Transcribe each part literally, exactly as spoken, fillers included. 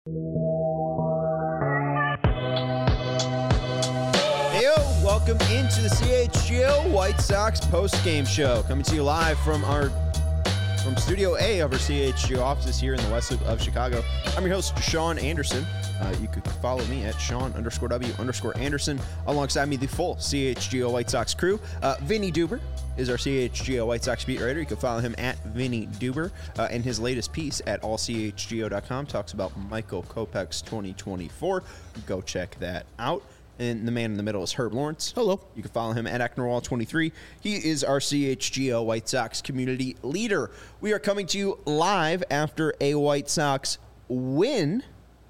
Heyo, welcome into the C H G O White Sox post-game show. Coming to you live from our from Studio A of our C H G O offices here in the West Loop of Chicago. I'm your host, Sean Anderson. Uh, you could follow me at Sean underscore W underscore Anderson. Alongside me, the full C H G O White Sox crew. Uh, Vinny Duber is our C H G O White Sox beat writer. You can follow him at Vinny Duber. Uh, and his latest piece at all c h g o dot com talks about Michael Kopech's twenty twenty-four. Go check that out. And the man in the middle is Herb Lawrence. Hello. You can follow him at Ecknerwall twenty-three. He is our C H G O White Sox community leader. We are coming to you live after a White Sox win,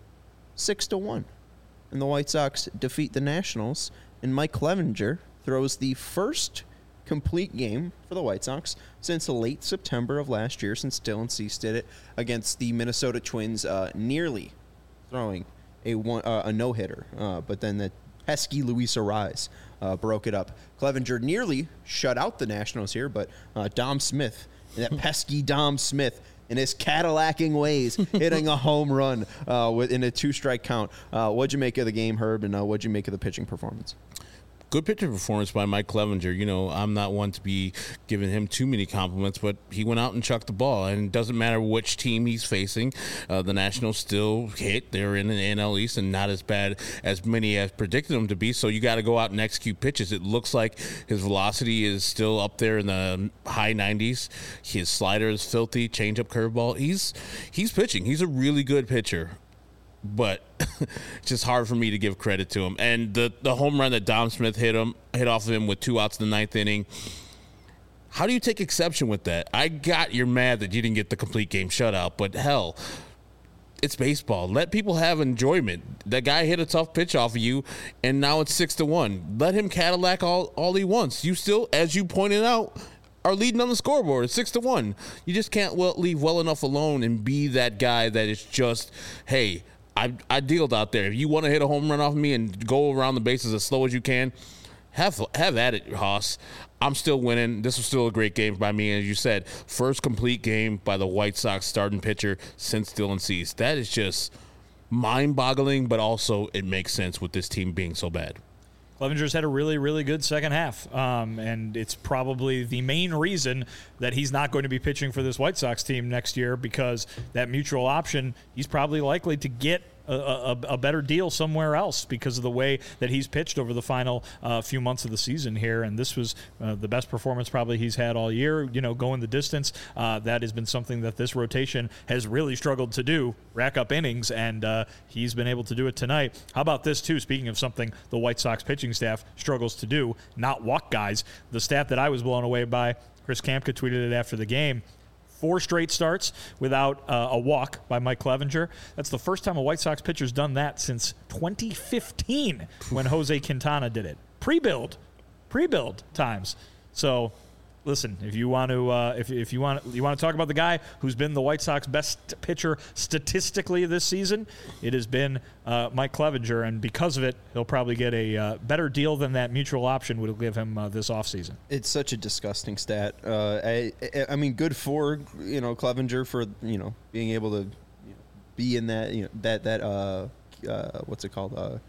six to one. And the White Sox defeat the Nationals. And Mike Clevinger throws the first complete game for the White Sox since late September of last year, since Dylan Cease did it against the Minnesota Twins, uh, nearly throwing a one, uh, a no-hitter. Uh, but then the pesky Luis Arraez uh, broke it up. Clevinger nearly shut out the Nationals here, but uh, Dom Smith, that pesky Dom Smith, in his Cadillacing ways, hitting a home run uh, in a two-strike count. Uh, what'd you make of the game, Herb, and uh, what'd you make of the pitching performance? Good pitcher performance by Mike Clevinger. You know, I'm not one to be giving him too many compliments, but he went out and chucked the ball. And it doesn't matter which team he's facing. Uh, the Nationals still hit. They're in the N L East and not as bad as many as predicted them to be. So you got to go out and execute pitches. It looks like his velocity is still up there in the high nineties. His slider is filthy. Changeup, curveball. He's he's pitching. He's a really good pitcher. But it's just hard for me to give credit to him. And the, the home run that Dom Smith hit him hit off of him with two outs in the ninth inning, how do you take exception with that? I got you're mad that you didn't get the complete game shutout, but hell, it's baseball. Let people have enjoyment. That guy hit a tough pitch off of you, and now it's six to one. Let him Cadillac all, all he wants. You still, as you pointed out, are leading on the scoreboard. It's six to one. You just can't well, leave well enough alone and be that guy that is just, hey, I I dealed out there. If you want to hit a home run off of me and go around the bases as slow as you can, have have at it, Haas. I'm still winning. This was still a great game by me. As you said, first complete game by the White Sox starting pitcher since Dylan Cease. That is just mind-boggling, but also it makes sense with this team being so bad. Clevinger's had a really, really good second half, um, and it's probably the main reason that he's not going to be pitching for this White Sox team next year, because that mutual option, he's probably likely to get a, a, a better deal somewhere else because of the way that he's pitched over the final uh, few months of the season here. And this was uh, the best performance probably he's had all year, you know, going the distance. Uh, that has been something that this rotation has really struggled to do, rack up innings, and uh, he's been able to do it tonight. How about this, too? Speaking of something the White Sox pitching staff struggles to do, not walk guys. The stat that I was blown away by, Chris Kamka tweeted it after the game. Four straight starts without uh, a walk by Mike Clevinger. That's the first time a White Sox pitcher's done that since twenty fifteen when Jose Quintana did it. Pre-build. Pre-build times. So, listen, if you want to uh, if, if you want you want to talk about the guy who's been the White Sox best pitcher statistically this season, it has been uh, Mike Clevinger, and because of it, he'll probably get a uh, better deal than that mutual option would give him uh, this offseason. It's such a disgusting stat. Uh, I, I mean, good for you know Clevinger for you know being able to you know, be in that you know that that uh, uh, what's it called uh,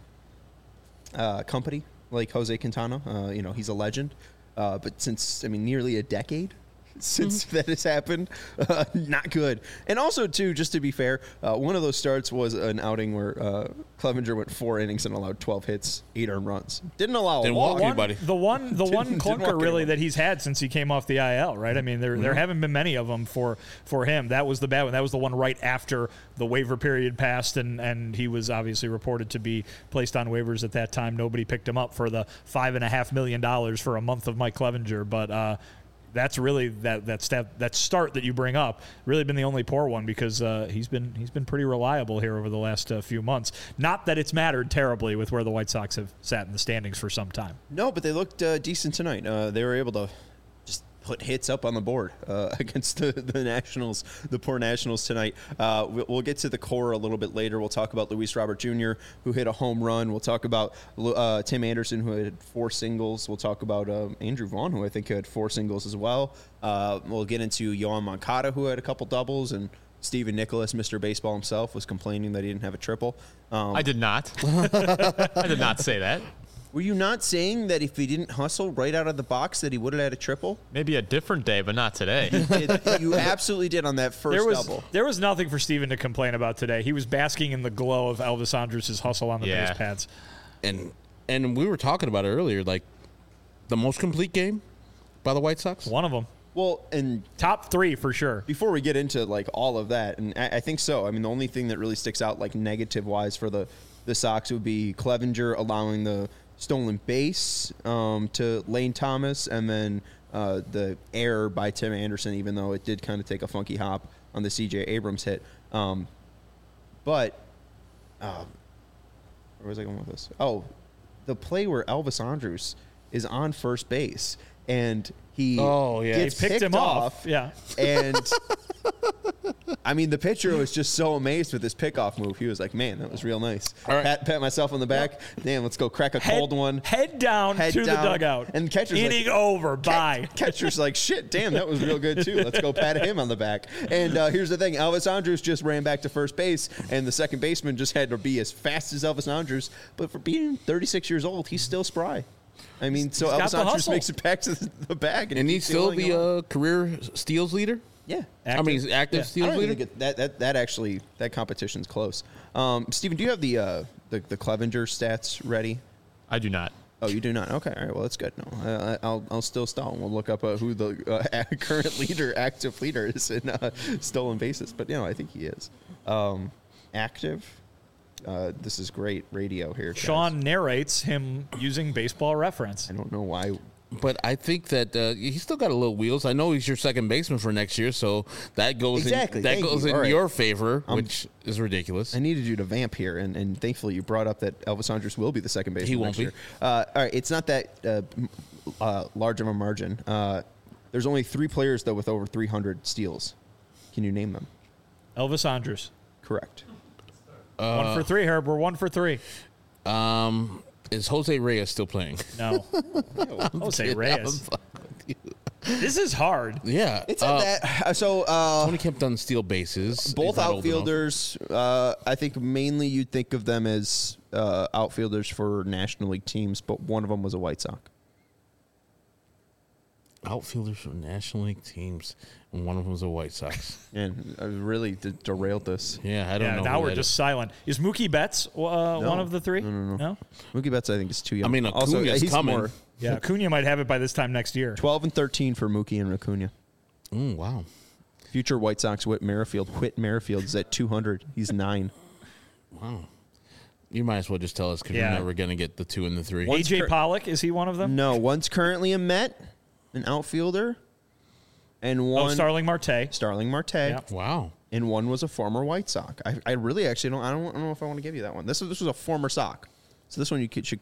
uh, company like Jose Quintana. Uh, you know, he's a legend. Uh, but since, I mean, nearly a decade since mm-hmm. that has happened, uh, not good. And also, too, just to be fair, uh, one of those starts was an outing where uh, Clevinger went four innings and allowed twelve hits, eight earned runs. Didn't allow Didn't a walk. walk anybody. The one, the one clunker really anyone. that he's had since he came off the I L, right? I mean, there mm-hmm. there haven't been many of them for, for him. That was the bad one. That was the one right after the waiver period passed, and, and he was obviously reported to be placed on waivers at that time. Nobody picked him up for the five and a half million dollars for a month of Mike Clevinger, but uh, that's really that that stat, that start that you bring up really been the only poor one, because uh, he's been he's been pretty reliable here over the last uh, few months. Not that it's mattered terribly with where the White Sox have sat in the standings for some time. No, but they looked uh, decent tonight. Uh, they were able to just put hits up on the board uh, against the, the Nationals, the poor Nationals tonight. Uh, we'll, we'll get to the core a little bit later. We'll talk about Luis Robert Junior, who hit a home run. We'll talk about uh, Tim Anderson, who had four singles. We'll talk about um, Andrew Vaughn, who I think had four singles as well. Uh, we'll get into Yohan Moncada, who had a couple doubles, and Steven Nicholas, Mister Baseball himself, was complaining that he didn't have a triple. Um, I did not. I did not say that. were you not saying that if he didn't hustle right out of the box that he would have had a triple? Maybe a different day, but not today. It, you absolutely did on that first There was double. there was nothing for Steven to complain about today. He was basking in the glow of Elvis Andrus' hustle on the Yeah. base pads. And and we were talking about it earlier, like the most complete game by the White Sox. One of them. Well, and Top three for sure. before we get into like all of that, and I, I think so. I mean, the only thing that really sticks out like negative wise for the the Sox would be Clevenger allowing the stolen base um, to Lane Thomas, and then uh, the error by Tim Anderson, even though it did kind of take a funky hop on the C J Abrams hit. Um, but uh, where was I going with this? Oh, the play where Elvis Andrus is on first base and he Oh, yeah. gets He picked him off, off. Yeah. and I mean, the pitcher was just so amazed with his pickoff move. He was like, "Man, that was real nice." All right. Pat, pat myself on the back. Damn, let's go crack a cold head, one. Head down Head to down. the dugout. And catcher's Inning like, over. Bye. Catcher's like, "Shit, damn, that was real good too. Let's go pat him on the back." And uh, here's the thing: Elvis Andrus just ran back to first base, and the second baseman just had to be as fast as Elvis Andrus. But for being thirty-six years old, he's still spry. I mean, so He's got Elvis the Andrus hustle. makes it back to the, the bag, and, And he he's keeps still going the on. uh, career steals leader. yeah. I mean, he's active Yeah. I steals don't leader. think it, that, that that actually that competition's close. Um, Steven, do you have the, uh, the the Clevenger stats ready? I do not. Oh, you do not. Okay, all right. Well, that's good. No, I, I- I'll I'll still stall. We'll look up uh, who the uh, current leader, active leader, is in uh, stolen bases. But you know, I think he is um, active. Uh, this is great radio here. guys. Sean narrates him using Baseball Reference. I don't know why. But I think that uh, he's still got a little wheels. I know he's your second baseman for next year, so that goes Exactly. in, that Thank goes you. in All right. your favor, which is ridiculous. I needed you to vamp here, and, and thankfully you brought up that Elvis Andrus will be the second baseman. He won't next be. year. Uh, all right, it's not that uh, m- uh, large of a margin. Uh, there's only three players though with over three hundred steals. Can you name them? Elvis Andrus. Correct. one for three, Herb. We're one for three. Um, is Jose Reyes still playing? No. Jose Reyes. This is hard. Yeah, It's uh, at that. uh, So uh, Tony Kemp done steal bases. both He's not old enough. outfielders. Uh, I think mainly you'd think of them as uh, outfielders for National League teams, but one of them was a White Sox. Outfielders for National League teams, and one of them was a White Sox. And I really de- derailed this. Yeah, I don't Yeah, know. now who we're that just is. silent. Is Mookie Betts uh, one of the three? No, no, no. Mookie Betts, I think, is too young. I mean, also, Acuna's he's coming. more Yeah, Acuna might have it by this time next year. twelve and thirteen for Mookie and Acuna. Mm, wow. Future White Sox Whit Merrifield. Whit Merrifield is at two hundred. He's nine. Wow. You might as well just tell us because Yeah. you're never going to get the two and the three. A J cur- Pollock, is he one of them? No, one's currently a Met, an outfielder, and Oh, one Starling Marte. Starling Marte, Yeah. Wow. and one was a former White Sox. I, I really actually don't. I don't, I don't know if I want to give you that one. This was this was a former Sox. So this one you could, should.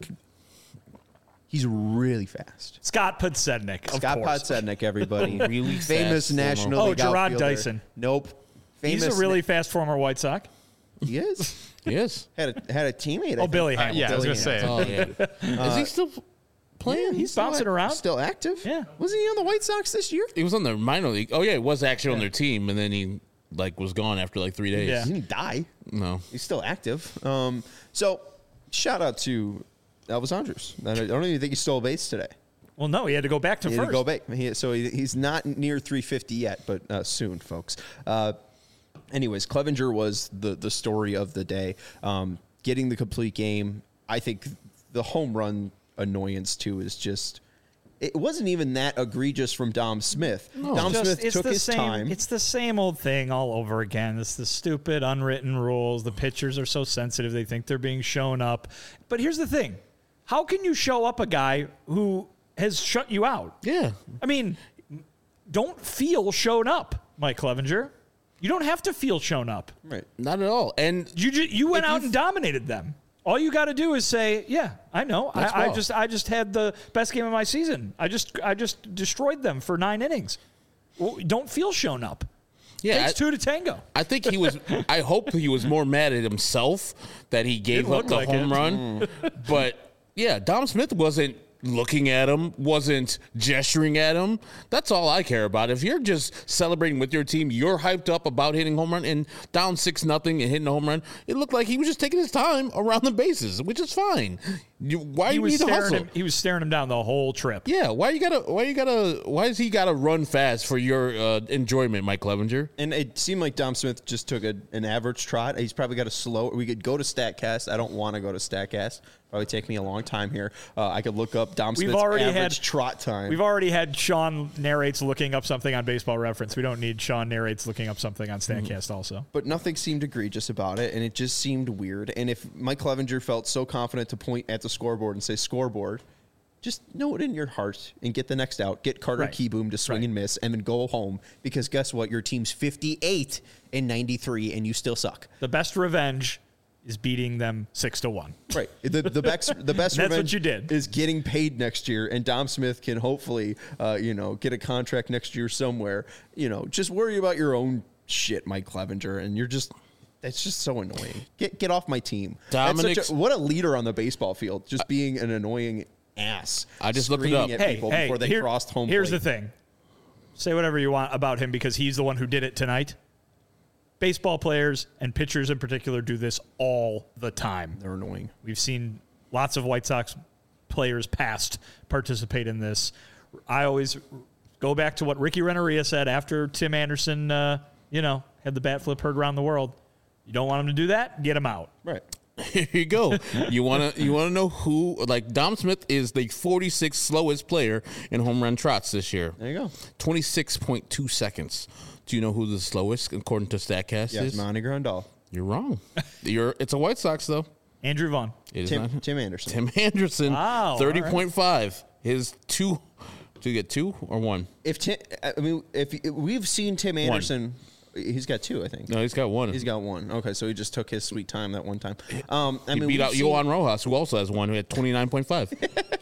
He's really fast. Scott Podsednik, of Scott course. Podsednik, everybody. Really famous fast National former- Oh, League Gerard outfielder. Dyson. Nope. Famous He's a really na- fast former White Sox. he is Yes. had a had a teammate. I Oh, think. Billy Uh, Hamilton. yeah, I was Billy gonna say. Oh, yeah. Is he still playing? He's bouncing around. Still active? Yeah. Wasn't he on the White Sox this year? He was on the minor league. Oh, yeah, he was actually on their team, and then he like was gone after like three days. Yeah. He didn't die. No. He's still active. Um, so, shout out to Elvis Andrus. I don't even think he stole a base today. Well, no, he had to go back to He had first. to go back. He, so he, he's not near three fifty yet, but uh, soon, folks. Uh, anyways, Clevenger was the the story of the day. Um, getting the complete game. I think the home run annoyance too is just. It wasn't even that egregious from Dom Smith. Dom Just- Smith it's took the his same, time. It's the same old thing all over again. It's the stupid unwritten rules. The pitchers are so sensitive; they think they're being shown up. But here's the thing: how can you show up a guy who has shut you out? Yeah. I mean, don't feel shown up, Mike Clevenger. You don't have to feel shown up. Right. Not at all. And You ju- you went If out you- and dominated them. All you got to do is say, "Yeah, I know. I, That's I well. just I just had the best game of my season. I just I just destroyed them for nine innings." Well, don't feel shown up. yeah, Takes I, two to tango. I think he was. I hope he was more mad at himself that he gave Didn't up look the like home it. run. But yeah, Dom Smith wasn't looking at him, wasn't gesturing at him. That's all I care about. If you're just celebrating with your team, you're hyped up about hitting home run and down six nothing and hitting a home run. It looked like he was just taking his time around the bases, which is fine. You, why He you was need to staring hustle? him. He was staring him down the whole trip. Yeah, why you gotta? Why you gotta? Why has he gotta run fast for your uh, enjoyment, Mike Clevenger? And it seemed like Dom Smith just took a, an average trot. He's probably got a slow. We could go to StatCast. I don't want to go to StatCast. Probably take me a long time here. Uh, I could look up Dom Smith's We've already average had trot time. We've already had Sean narrates looking up something on Baseball Reference. We don't need Sean narrates looking up something on StatCast mm-hmm. also. But nothing seemed egregious about it, and it just seemed weird. And if Mike Clevenger felt so confident to point at the scoreboard and say scoreboard, just know it in your heart and get the next out. Get Carter Right. Keyboom to swing Right. and miss, and then go home. Because guess what? Your team's fifty-eight and ninety-three, and you still suck. The best revenge is beating them six to one. Right. The the best the best That's what revenge you did. is getting paid next year, and Dom Smith can hopefully, uh, you know, get a contract next year somewhere. You know, just worry about your own shit, Mike Clevenger, and you're just. That's just so annoying. Get get off my team. That's such Dominic's- a, what a leader on the baseball field, just being an annoying ass. I just looked it screaming up. at Hey, people hey, before they here- crossed home here's plate. the thing. Say whatever you want about him because he's the one who did it tonight. Baseball players and pitchers in particular do this all the time. They're annoying. We've seen lots of White Sox players past participate in this. I always go back to what Ricky Renneria said after Tim Anderson, uh, you know, had the bat flip heard around the world. You don't want him to do that? Get him out. Right. Here you go. You wanna you wanna know who? Like Dom Smith is the forty-sixth slowest player in home run trots this year. There you go. twenty-six point two seconds. Do you know who the slowest according to StatCast Yes, is? Monty Grandal. You're wrong. You're. It's a White Sox though. Andrew Vaughn. It is Tim, not. Tim Anderson. Tim Anderson. Wow, Thirty point five. His two. Do you get two or one? If Tim, I mean, if, if we've seen Tim Anderson, he's got two, I think. No, he's got one. He's got one. Okay, so he just took his sweet time that one time. Um, I he mean, beat we've out seen- Yohan Rojas, who also has one, who had twenty-nine point five.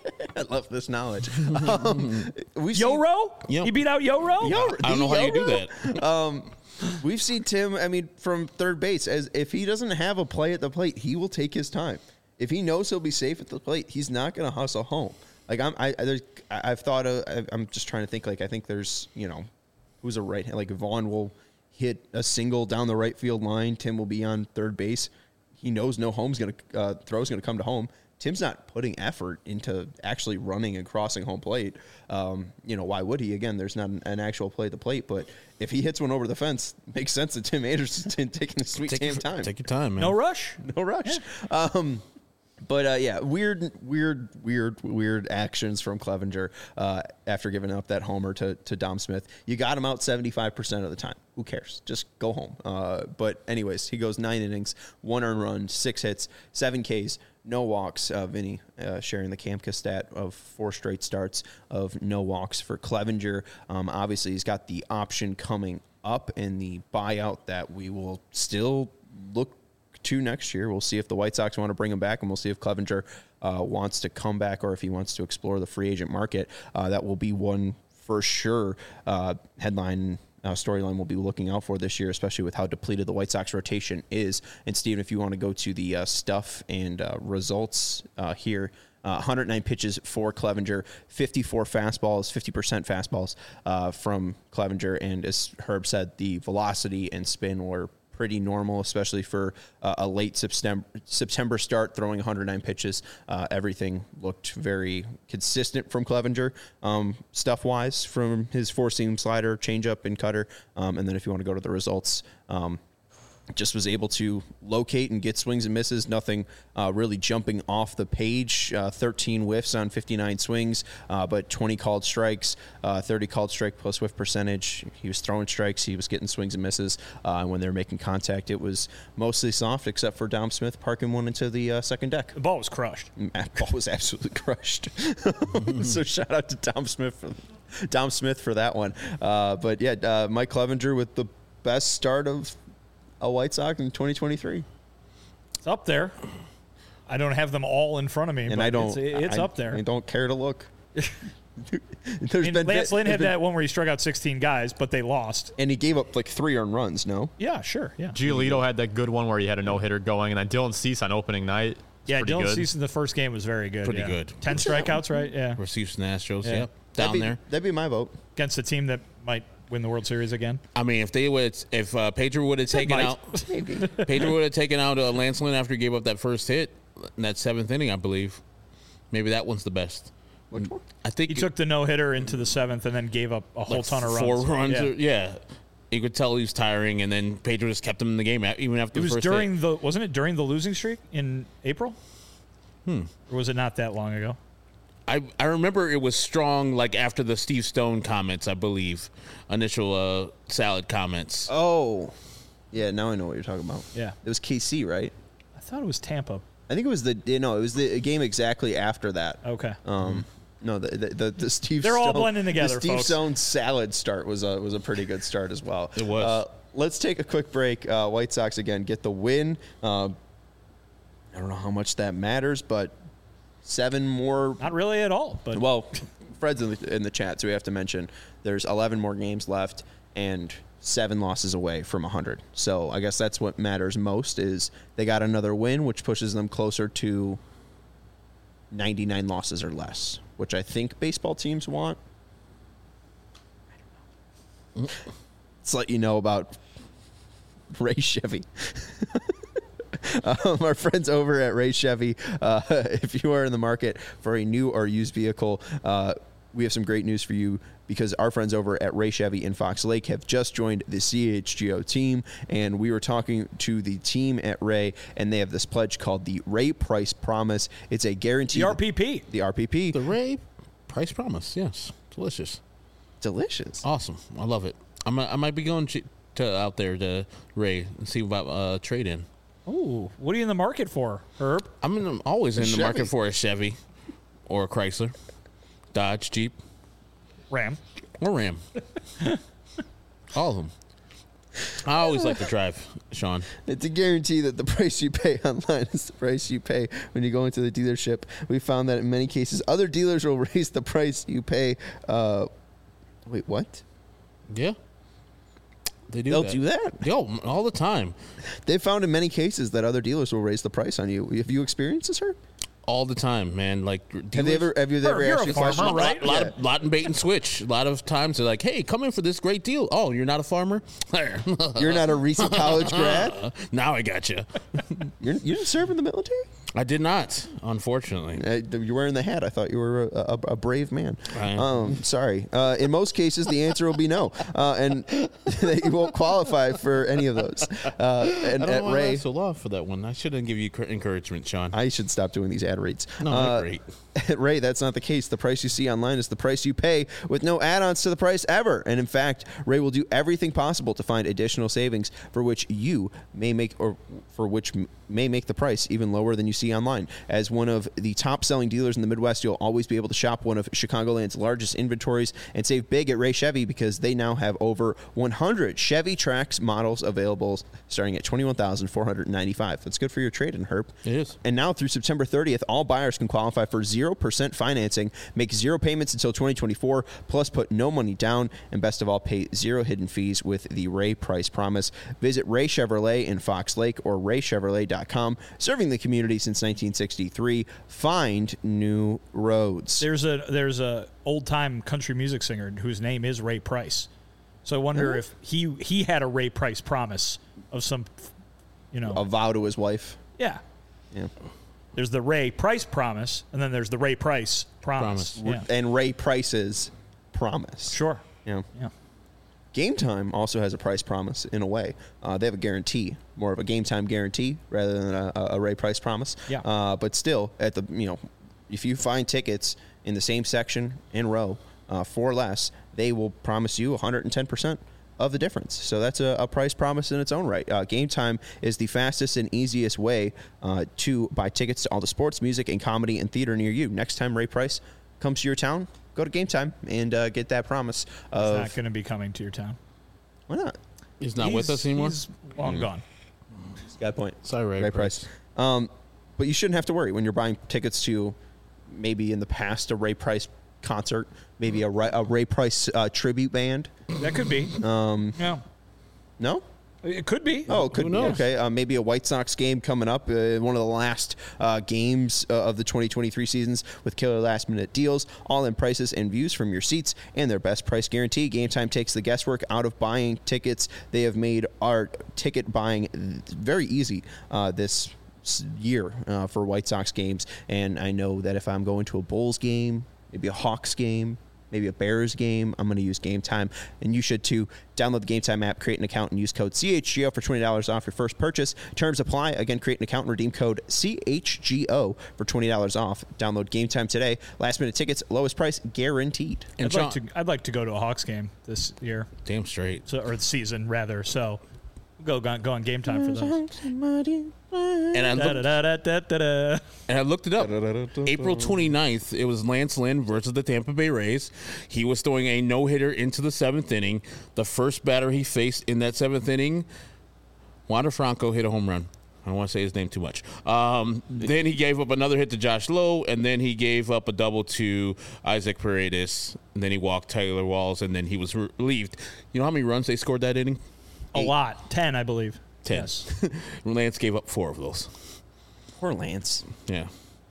I love this knowledge. Um, we've seen, Yoro? Yep. He beat out Yoro? Yo- I don't know how you do Yoro? that. We've seen Tim, I mean, from third base, as if he doesn't have a play at the plate, he will take his time. If he knows he'll be safe at the plate, he's not going to hustle home. Like I'm, I, I, there's, I- I've thought of, I- I'm just trying to think. Like I think there's, you know, who's a right hand. Like Vaughn will hit a single down the right field line. Tim will be on third base. He knows no home's going to uh, throw's going to come to home. Tim's not putting effort into actually running and crossing home plate. Um, you know, why would he? Again, there's not an, an actual play at the plate, but if he hits one over the fence, it makes sense that Tim Anderson's taking his sweet Take damn your, time. Take your time, man. No rush? No rush. Um, but uh, yeah, weird, weird, weird, weird actions from Clevenger uh, after giving up that homer to, to Dom Smith. You got him out seventy-five percent of the time. Who cares? Just go home. Uh, but anyways, he goes nine innings, one earned run, six hits, seven Ks, no walks. Uh, Vinny uh, sharing the Kamka stat of four straight starts of no walks for Clevenger. Um, obviously, he's got the option coming up in the buyout that we will still look to next year. We'll see if the White Sox want to bring him back, and we'll see if Clevenger uh, wants to come back or if he wants to explore the free agent market. Uh, that will be one for sure uh, headline uh, storyline we'll be looking out for this year, especially with how depleted the White Sox rotation is. And Steven, if you want to go to the uh, stuff and uh, results uh, here, Uh, one hundred nine pitches for Clevenger, fifty-four fastballs, fifty percent fastballs uh, from Clevenger. And as Herb said, the velocity and spin were pretty normal, especially for uh, a late September, September start, throwing one hundred nine pitches. Uh, everything looked very consistent from Clevenger, um, stuff-wise, from his four-seam slider, changeup, and cutter. Um, and then if you want to go to the results, um, just was able to locate and get swings and misses. Nothing uh, really jumping off the page. Uh, thirteen whiffs on fifty-nine swings, uh, but twenty called strikes, uh, thirty called strike plus whiff percentage. He was throwing strikes. He was getting swings and misses. Uh, and when they were making contact, it was mostly soft, except for Dom Smith parking one into the uh, second deck. The ball was crushed. That ball was absolutely crushed. So shout out to Dom Smith for, Dom Smith for that one. Uh, but yeah, uh, Mike Clevenger with the best start of a White Sox in twenty twenty-three. It's up there. I don't have them all in front of me, And but I don't. it's, it's I, up there. I don't care to look. There's I mean, been Lance Lynn there's had been- that one where he struck out sixteen guys, but they lost. and he gave up like three earned runs. No, Yeah, sure. Yeah. Giolito had that good one where he had a no-hitter going, and then Dylan Cease on opening night Yeah, pretty Dylan good. Cease in the first game was very good. Pretty yeah. good. Ten strikeouts, right? Yeah. For Houston Astros, Yeah. yep, That'd down be, there. That'd be my vote. Against a team that might win the World Series again. I mean, if they would, if uh, Pedro would have taken might. out, Pedro would have taken out uh, Lance Lynn after he gave up that first hit in that seventh inning, I believe. Maybe that one's the best. Which one? I think He took the no hitter into the seventh and then gave up a whole like ton of runs. four runs. Yeah. Or, yeah. You could tell he was tiring, and then Pedro just kept him in the game a- even after It the was first during hit. the wasn't it during the losing streak in April? Hmm. Or was it not that long ago? I, I remember it was strong, like after the Steve Stone comments, I believe, initial uh, salad comments. Oh, yeah. Now I know what you're talking about. Yeah. It was K C, right? I thought it was Tampa. I think it was the you know it was the game exactly after that. Okay. Um, no, the the, the, the Steve. They're all Stone, blending together, The Steve folks. Stone salad start was a was a pretty good start as well. It was. Uh, let's take a quick break. Uh, White Sox again get the win. Uh, I don't know how much that matters, but seven more. Not really at all, but Well, Fred's in the, in the chat, so we have to mention there's eleven more games left and seven losses away from one hundred. So I guess that's what matters most is they got another win, which pushes them closer to ninety-nine losses or less, which I think baseball teams want. Let's let you know about Ray Chevy. Um, our friends over at Ray Chevy, uh, if you are in the market for a new or used vehicle, uh, we have some great news for you because our friends over at Ray Chevy in Fox Lake have just joined the C H G O team, and we were talking to the team at Ray, and they have this pledge called the Ray Price Promise. It's a guarantee. the R P P. The R P P. The Ray Price Promise, yes. Delicious. Delicious. Awesome. I love it. I'm, I might be going to, to out there to Ray and see about uh, trade-in. Ooh, what are you in the market for, Herb? I'm, in, I'm always in the Chevy. market for a Chevy or a Chrysler, Dodge, Jeep, Ram. or Ram. All of them. I always like to drive, Sean. It's a guarantee that the price you pay online is the price you pay when you go into the dealership. We found that in many cases, other dealers will raise the price you pay. Uh, wait, what? Yeah. They do They'll that. do that. Yo, all the time. They've found in many cases that other dealers will raise the price on you. Have you experienced this, sir? All the time, man. Like, Have they ever? Have you ever You're a actually farmer, questioned- right? A lot, Yeah. of, lot in bait and switch. A lot of times they're like, "Hey, come in for this great deal." Oh, you're not a farmer? There. You're not a recent college grad. Now I got you. You're, you didn't serve in the military. I did not, unfortunately. Uh, you're wearing the hat. I thought you were a, a, a brave man. I am. Um, sorry. Uh, in most cases, the answer will be no, uh, and that you won't qualify for any of those. Uh, and I don't at know why I Ray, so lost for that one. I shouldn't give you cr- encouragement, Sean. I should stop doing these ad reads. no, Uh, they're great. At Ray, that's not the case. The price you see online is the price you pay with no add-ons to the price ever. And in fact, Ray will do everything possible to find additional savings for which you may make or for which m- may make the price even lower than you see online. As one of the top-selling dealers in the Midwest, you'll always be able to shop one of Chicagoland's largest inventories and save big at Ray Chevy because they now have over one hundred Chevy Trax models available starting at twenty-one thousand four hundred ninety-five dollars. That's good for your trade-in, Herb. It is. And now through September thirtieth, all buyers can qualify for zero percent financing, make zero payments until twenty twenty-four, plus put no money down, and best of all, pay zero hidden fees with the Ray Price Promise. Visit Ray Chevrolet in Fox Lake or ray chevrolet dot com. Serving the community since nineteen sixty-three. Find new roads. There's a there's a old time country music singer whose name is Ray Price. So I wonder if he he had a Ray Price promise of some, you know, A vow to his wife. yeah. Yeah. There's the Ray Price promise, and then there's the Ray Price promise. Promise. Yeah. And Ray Price's promise. Sure. Yeah. Yeah. Game Time also has a price promise in a way. Uh, they have a guarantee, more of a Game Time guarantee rather than a, a Ray Price promise. Yeah. Uh, but still, at the you know, if you find tickets in the same section in row uh, for less, they will promise you one hundred ten percent of the difference. So that's a, a price promise in its own right. Uh, Game Time is the fastest and easiest way uh, to buy tickets to all the sports, music, and comedy and theater near you. Next time Ray Price comes to your town, go to Game Time and uh, get that promise He's of not going to be coming to your town. why not? He's not with He's- us anymore. He's long gone. Got a point. Sorry, Ray, Ray Price. Price. Um, but you shouldn't have to worry when you're buying tickets to maybe in the past a Ray Price concert, maybe a, Ray, a Ray Price uh, tribute band. That could be. Um, Yeah. no, It could be. Oh, it could Who be. knows? Okay, uh, maybe a White Sox game coming up. Uh, one of the last uh, games uh, of the twenty twenty-three seasons with killer last-minute deals, all-in prices and views from your seats, and their best price guarantee. Game Time takes the guesswork out of buying tickets. They have made our ticket buying very easy uh, this year uh, for White Sox games. And I know that if I'm going to a Bulls game, maybe a Hawks game, maybe a Bears game, I'm going to use Game Time, and you should too. Download the Game Time app, create an account, and use code C H G O for twenty dollars off your first purchase. Terms apply. Again, create an account and redeem code C H G O for twenty dollars off. Download Game Time today. Last minute tickets, lowest price guaranteed. And I'd John, like to. I'd like to go to a Hawks game this year, damn straight. so, or season rather. So, go go, go on Game Time for those. And I Da, looked, da, da, da, da, da. and I looked it up. April twenty-ninth, it was Lance Lynn versus the Tampa Bay Rays. He was throwing a no-hitter into the seventh inning. The first batter he faced in that seventh inning, Wander Franco hit a home run. I don't want to say his name too much. Um, then he gave up another hit to Josh Lowe, and then he gave up a double to Isaac Paredes. And then he walked Taylor Walls, and then he was relieved. You know how many runs they scored that inning? A lot, ten, I believe. Ten. Yes. Lance gave up four of those. Poor Lance. Yeah.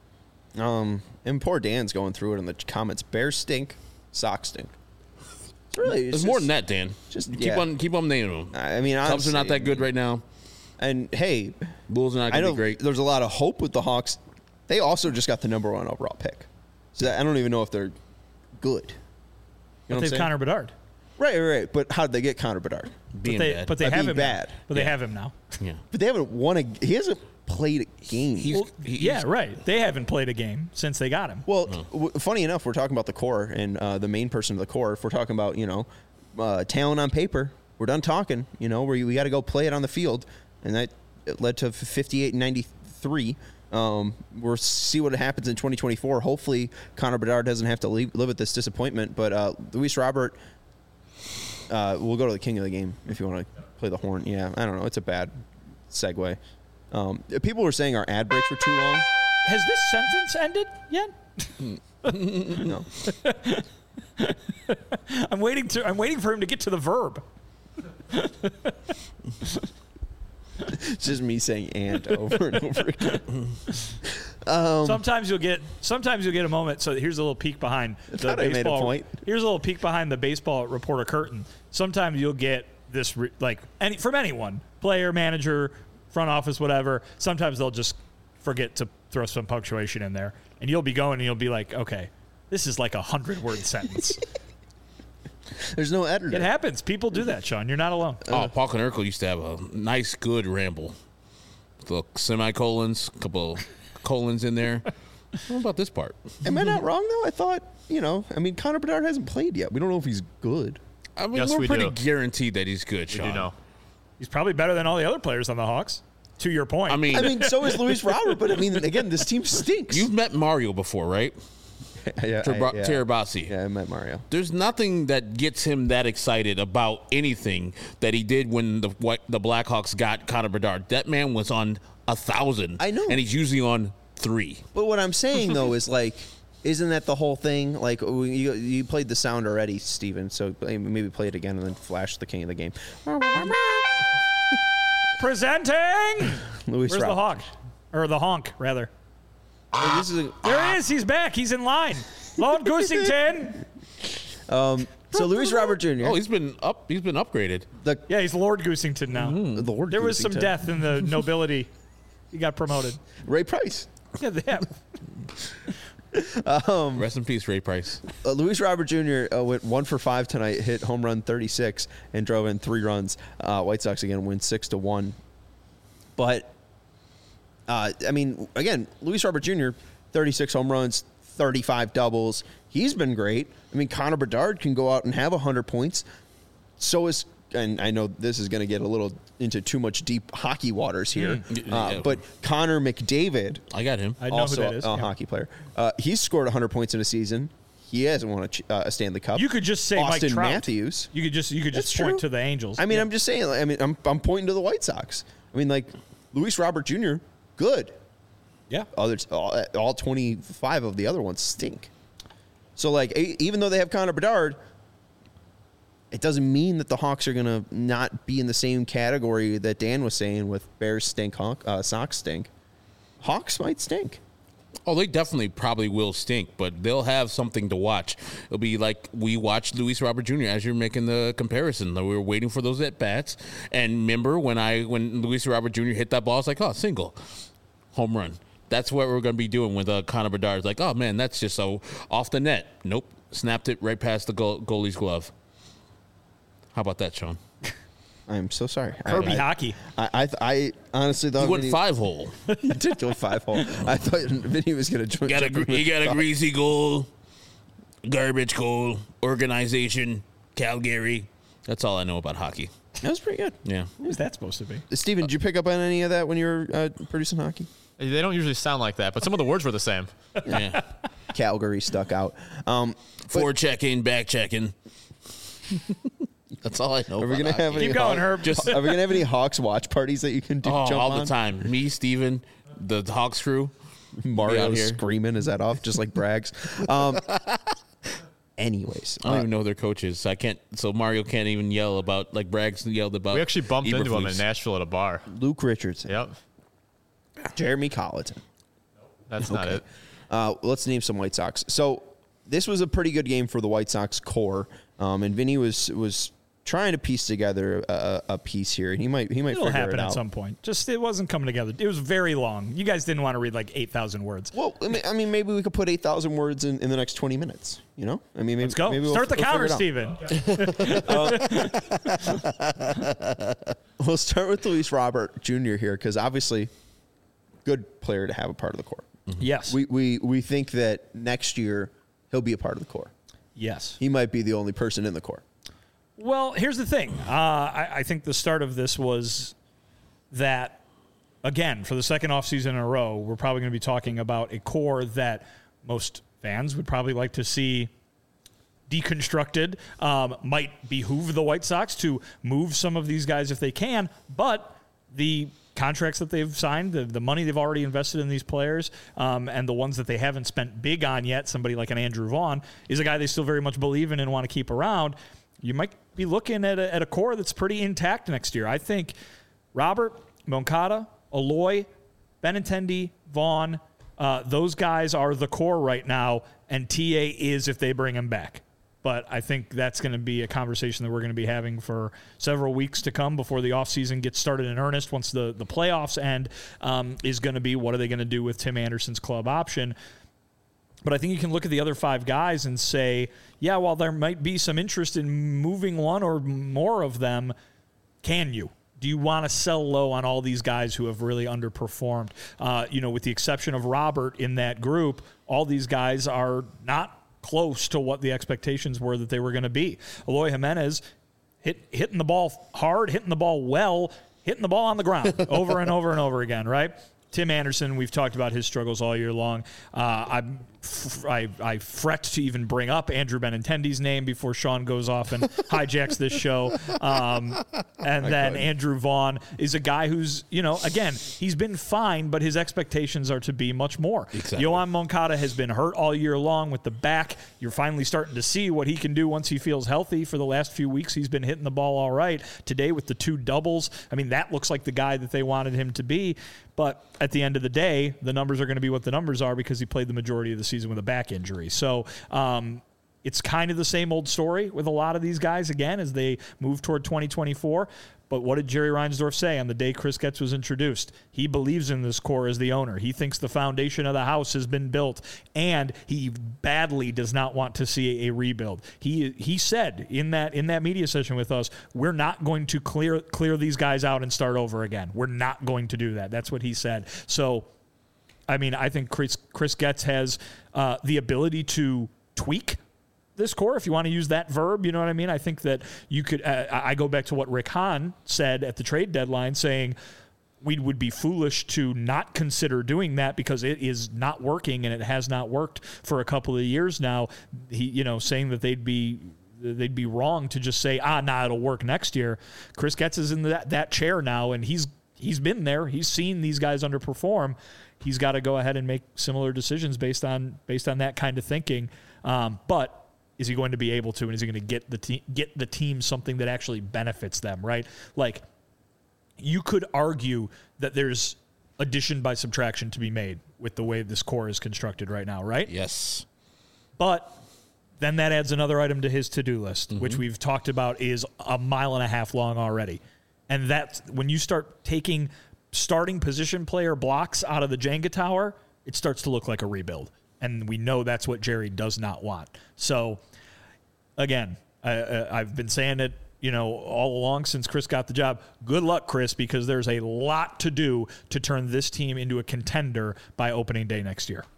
Um, and poor Dan's going through it in the comments. Bears stink, Sox stink. It's really, It's it's more just- than that, Dan. just- keep yeah. on keep on naming them. I mean, Cubs honestly, are not that good I mean, right now. And hey, Bulls are not I going to know be great. there's a lot of hope with the Hawks. They also just got the number one overall pick, so I don't even know if they're good. You know But what I'm they've saying? Connor Bedard. Right, right, right. But how did they get Connor Bedard? Being but they, bad. But they By have being him bad. Now. But they Yeah. have him now. yeah. But they haven't won a. He hasn't played a game. He's, Well, he's, yeah, right. They haven't played a game since they got him. Well, w- funny enough, we're talking about the core and uh, the main person of the core. If we're talking about, you know, uh, talent on paper, we're done talking. You know, where we got to go play it on the field, and that it led to fifty-eight and ninety-three. Um, we'll see what happens in twenty twenty-four. Hopefully, Connor Bedard doesn't have to leave, live with this disappointment. But uh, Luis Robert, uh, we'll go to the king of the game if you want to play the horn. Yeah, I don't know. It's a bad segue. Um, people were saying our ad breaks were too long. Has this sentence ended yet? No. I'm waiting to. I'm waiting for him to get to the verb. It's just me saying "and" over and over again. Um, sometimes you'll get. Sometimes you'll get a moment. So here's a little peek behind the thought I made a baseball. point. Here's a little peek behind the baseball reporter curtain. Sometimes you'll get this re, like any from anyone, player, manager, front office, whatever. Sometimes they'll just forget to throw some punctuation in there, and you'll be going and you'll be like, okay, this is like a hundred word sentence. There's no editor. It happens. People do that, Sean. You're not alone. Oh, Paul Konerko used to have a nice, good ramble. The semicolons, a couple colons in there. What about this part? Am I not wrong though? I thought, you know, I mean, Connor Bedard hasn't played yet. We don't know if he's good. I mean, Yes, we're we pretty do. guaranteed that he's good, We Sean. do know. He's probably better than all the other players on the Hawks. To your point. I mean, I mean, so is Luis Robert, but I mean, again, this team stinks. you've met Mario before, right? yeah, Terba- I, yeah. Terabasi. Yeah, I met Mario. There's nothing that gets him that excited about anything that he did when the what, the Blackhawks got Connor Bedard. That man was on a thousand. I know. and he's usually on three. But what I'm saying though is like, isn't that the whole thing? Like, you, you played the sound already, Steven, so maybe play it again and then flash the king of the game. Presenting. Luis Where's the Robert. hawk? Or the honk, rather. Hey, this is a, There he is. He's back. He's in line. Lord Goosington. um, so Luis Robert Junior Oh, he's been up. He's been upgraded. the Yeah, he's Lord Goosington now. the Lord There was some Goosington. death in the nobility. He got promoted. Ray Price. Yeah, they have. Rest in peace, Ray Price. Uh, Luis Robert Junior Uh, went one for five tonight, hit home run thirty-six, and drove in three runs. Uh, White Sox again win six to one. But uh, I mean, again, Luis Robert Junior thirty-six home runs, thirty-five doubles. He's been great. I mean, Connor Bedard can go out and have one hundred points. So is, and I know this is going to get a little into too much deep hockey waters here, Mm. uh, Yeah. but Connor McDavid, I got him. I know also who that is. a Yeah. hockey player, uh, he's scored one hundred points in a season. He hasn't won a, ch- uh, a Stanley Cup. You could just say Austin Mike Trout. Matthews. You could just you could just That's point true. to the Angels. I mean, Yeah. I'm just saying. like, I mean, I'm I'm pointing to the White Sox. I mean, like Luis Robert Junior, good. yeah. Others, all, all twenty-five of the other ones stink. So, like, e- even though they have Connor Bedard, it doesn't mean that the Hawks are going to not be in the same category that Dan was saying with Bears stink, Hawk, uh, Sox stink. Hawks might stink. Oh, they definitely probably will stink, but they'll have something to watch. It'll be like we watched Luis Robert Junior as you're making the comparison. We were waiting for those at bats, and remember when I when Luis Robert Junior hit that ball, I was like, oh, single, home run. That's what we're going to be doing with uh, Connor Bedard. It's like, oh man, that's just so off the net. Nope, snapped it right past the goal, goalie's glove. How about that, Sean? I'm so sorry. Kirby I, I, hockey. I, I, I honestly thought He went Vinny, five hole. he did go five hole. I thought Vinny was going to join. Got a, gr- he got a greasy goal, garbage goal, organization, Calgary. That's all I know about hockey. That was pretty good. Yeah. What was that supposed to be? Steven, did you pick up on any of that when you were uh, producing hockey? They don't usually sound like that, but some of the words were the same. Yeah. Calgary stuck out. Um, Forward checking, back checking. That's all I know. Are we about gonna hockey. have any Keep going, Hawk- Herb. Just Are we gonna have any Hawks watch parties that you can do? oh, jump all on? the time? Me, Steven, the Hawks crew. Mario out here. screaming his head off, just like Braggs. Um, anyways, I don't uh, even know their coaches. I can't. So Mario can't even yell about like Braggs yelled about. We actually bumped into him in Eberflus. Nashville at a bar. Luke Richardson, Yep. Jeremy Colleton. That's not it. Uh, let's name some White Sox. So this was a pretty good game for the White Sox core, um, and Vinny was was trying to piece together a, a piece here, and he might he might It'll figure happen it at out. some point. Just it wasn't coming together. It was very long. You guys didn't want to read like eight thousand words. Well, I mean, I mean, maybe we could put eight thousand words in, in the next twenty minutes. You know, I mean, maybe, Let's go. Maybe we'll, Start the we'll counter, figure it out. Steven. We'll start with Luis Robert Junior here because obviously, good player to have a part of the core. Yes. We we we think that next year he'll be a part of the core. yes. He might be the only person in the core. Well, here's the thing. Uh, I, I think the start of this was that, again, for the second offseason in a row, we're probably going to be talking about a core that most fans would probably like to see deconstructed. Um, might behoove the White Sox to move some of these guys if they can, but the contracts that they've signed, the, the money they've already invested in these players, um, and the ones that they haven't spent big on yet, somebody like an Andrew Vaughn, is a guy they still very much believe in and want to keep around. You might be looking at a, at a core that's pretty intact next year. I think Robert, Moncada, Eloy, Benintendi, Vaughn, uh, those guys are the core right now, and T A is if they bring him back. But I think that's going to be a conversation that we're going to be having for several weeks to come before the offseason gets started in earnest. Once the, the playoffs end, um, is going to be what are they going to do with Tim Anderson's club option. But I think you can look at the other five guys and say, yeah, while there might be some interest in moving one or more of them, can you? Do you want to sell low on all these guys who have really underperformed? Uh, you know, with the exception of Robert in that group, all these guys are not close to what the expectations were that they were going to be. Eloy Jimenez hit, hitting the ball hard, hitting the ball well, hitting the ball on the ground over and over and over again, right? Tim Anderson, we've talked about his struggles all year long. Uh, I'm, I, I fret to even bring up Andrew Benintendi's name before Sean goes off and hijacks this show. Um, and then Andrew Vaughn is a guy who's, you know, again, he's been fine, but his expectations are to be much more. Exactly. Yohan Moncada has been hurt all year long with the back. You're finally starting to see what he can do once he feels healthy. For the last few weeks, he's been hitting the ball all right. Today with the two doubles, I mean, that looks like the guy that they wanted him to be. But at the end of the day, the numbers are going to be what the numbers are because he played the majority of the season with a back injury. So um, it's kind of the same old story with a lot of these guys, again, as they move toward twenty twenty-four. But what did Jerry Reinsdorf say on the day Chris Getz was introduced? He believes in this core as the owner. He thinks the foundation of the house has been built, and he badly does not want to see a rebuild. He he said in that in that media session with us, we're not going to clear clear these guys out and start over again. We're not going to do that. That's what he said. So, I mean, I think Chris, Chris Getz has uh, the ability to tweak this core, if you want to use that verb, you know what I mean? I think that you could, uh, I go back to what Rick Hahn said at the trade deadline, saying we would be foolish to not consider doing that because it is not working and it has not worked for a couple of years now. He, you know, saying that they'd be, they'd be wrong to just say, ah, nah, it'll work next year. Chris Getz is in that, that chair now, and he's, he's been there. He's seen these guys underperform. He's got to go ahead and make similar decisions based on, based on that kind of thinking. Um, but is he going to be able to, and is he going to get the te- get the team something that actually benefits them, right? Like, you could argue that there's addition by subtraction to be made with the way this core is constructed right now, right? Yes. But then that adds another item to his to-do list, mm-hmm. which we've talked about is a mile and a half long already. And that's when you start taking starting position player blocks out of the Jenga tower, it starts to look like a rebuild. And we know that's what Jerry does not want. So, again, I, I've been saying it, you know, all along since Chris got the job. Good luck, Chris, because there's a lot to do to turn this team into a contender by opening day next year.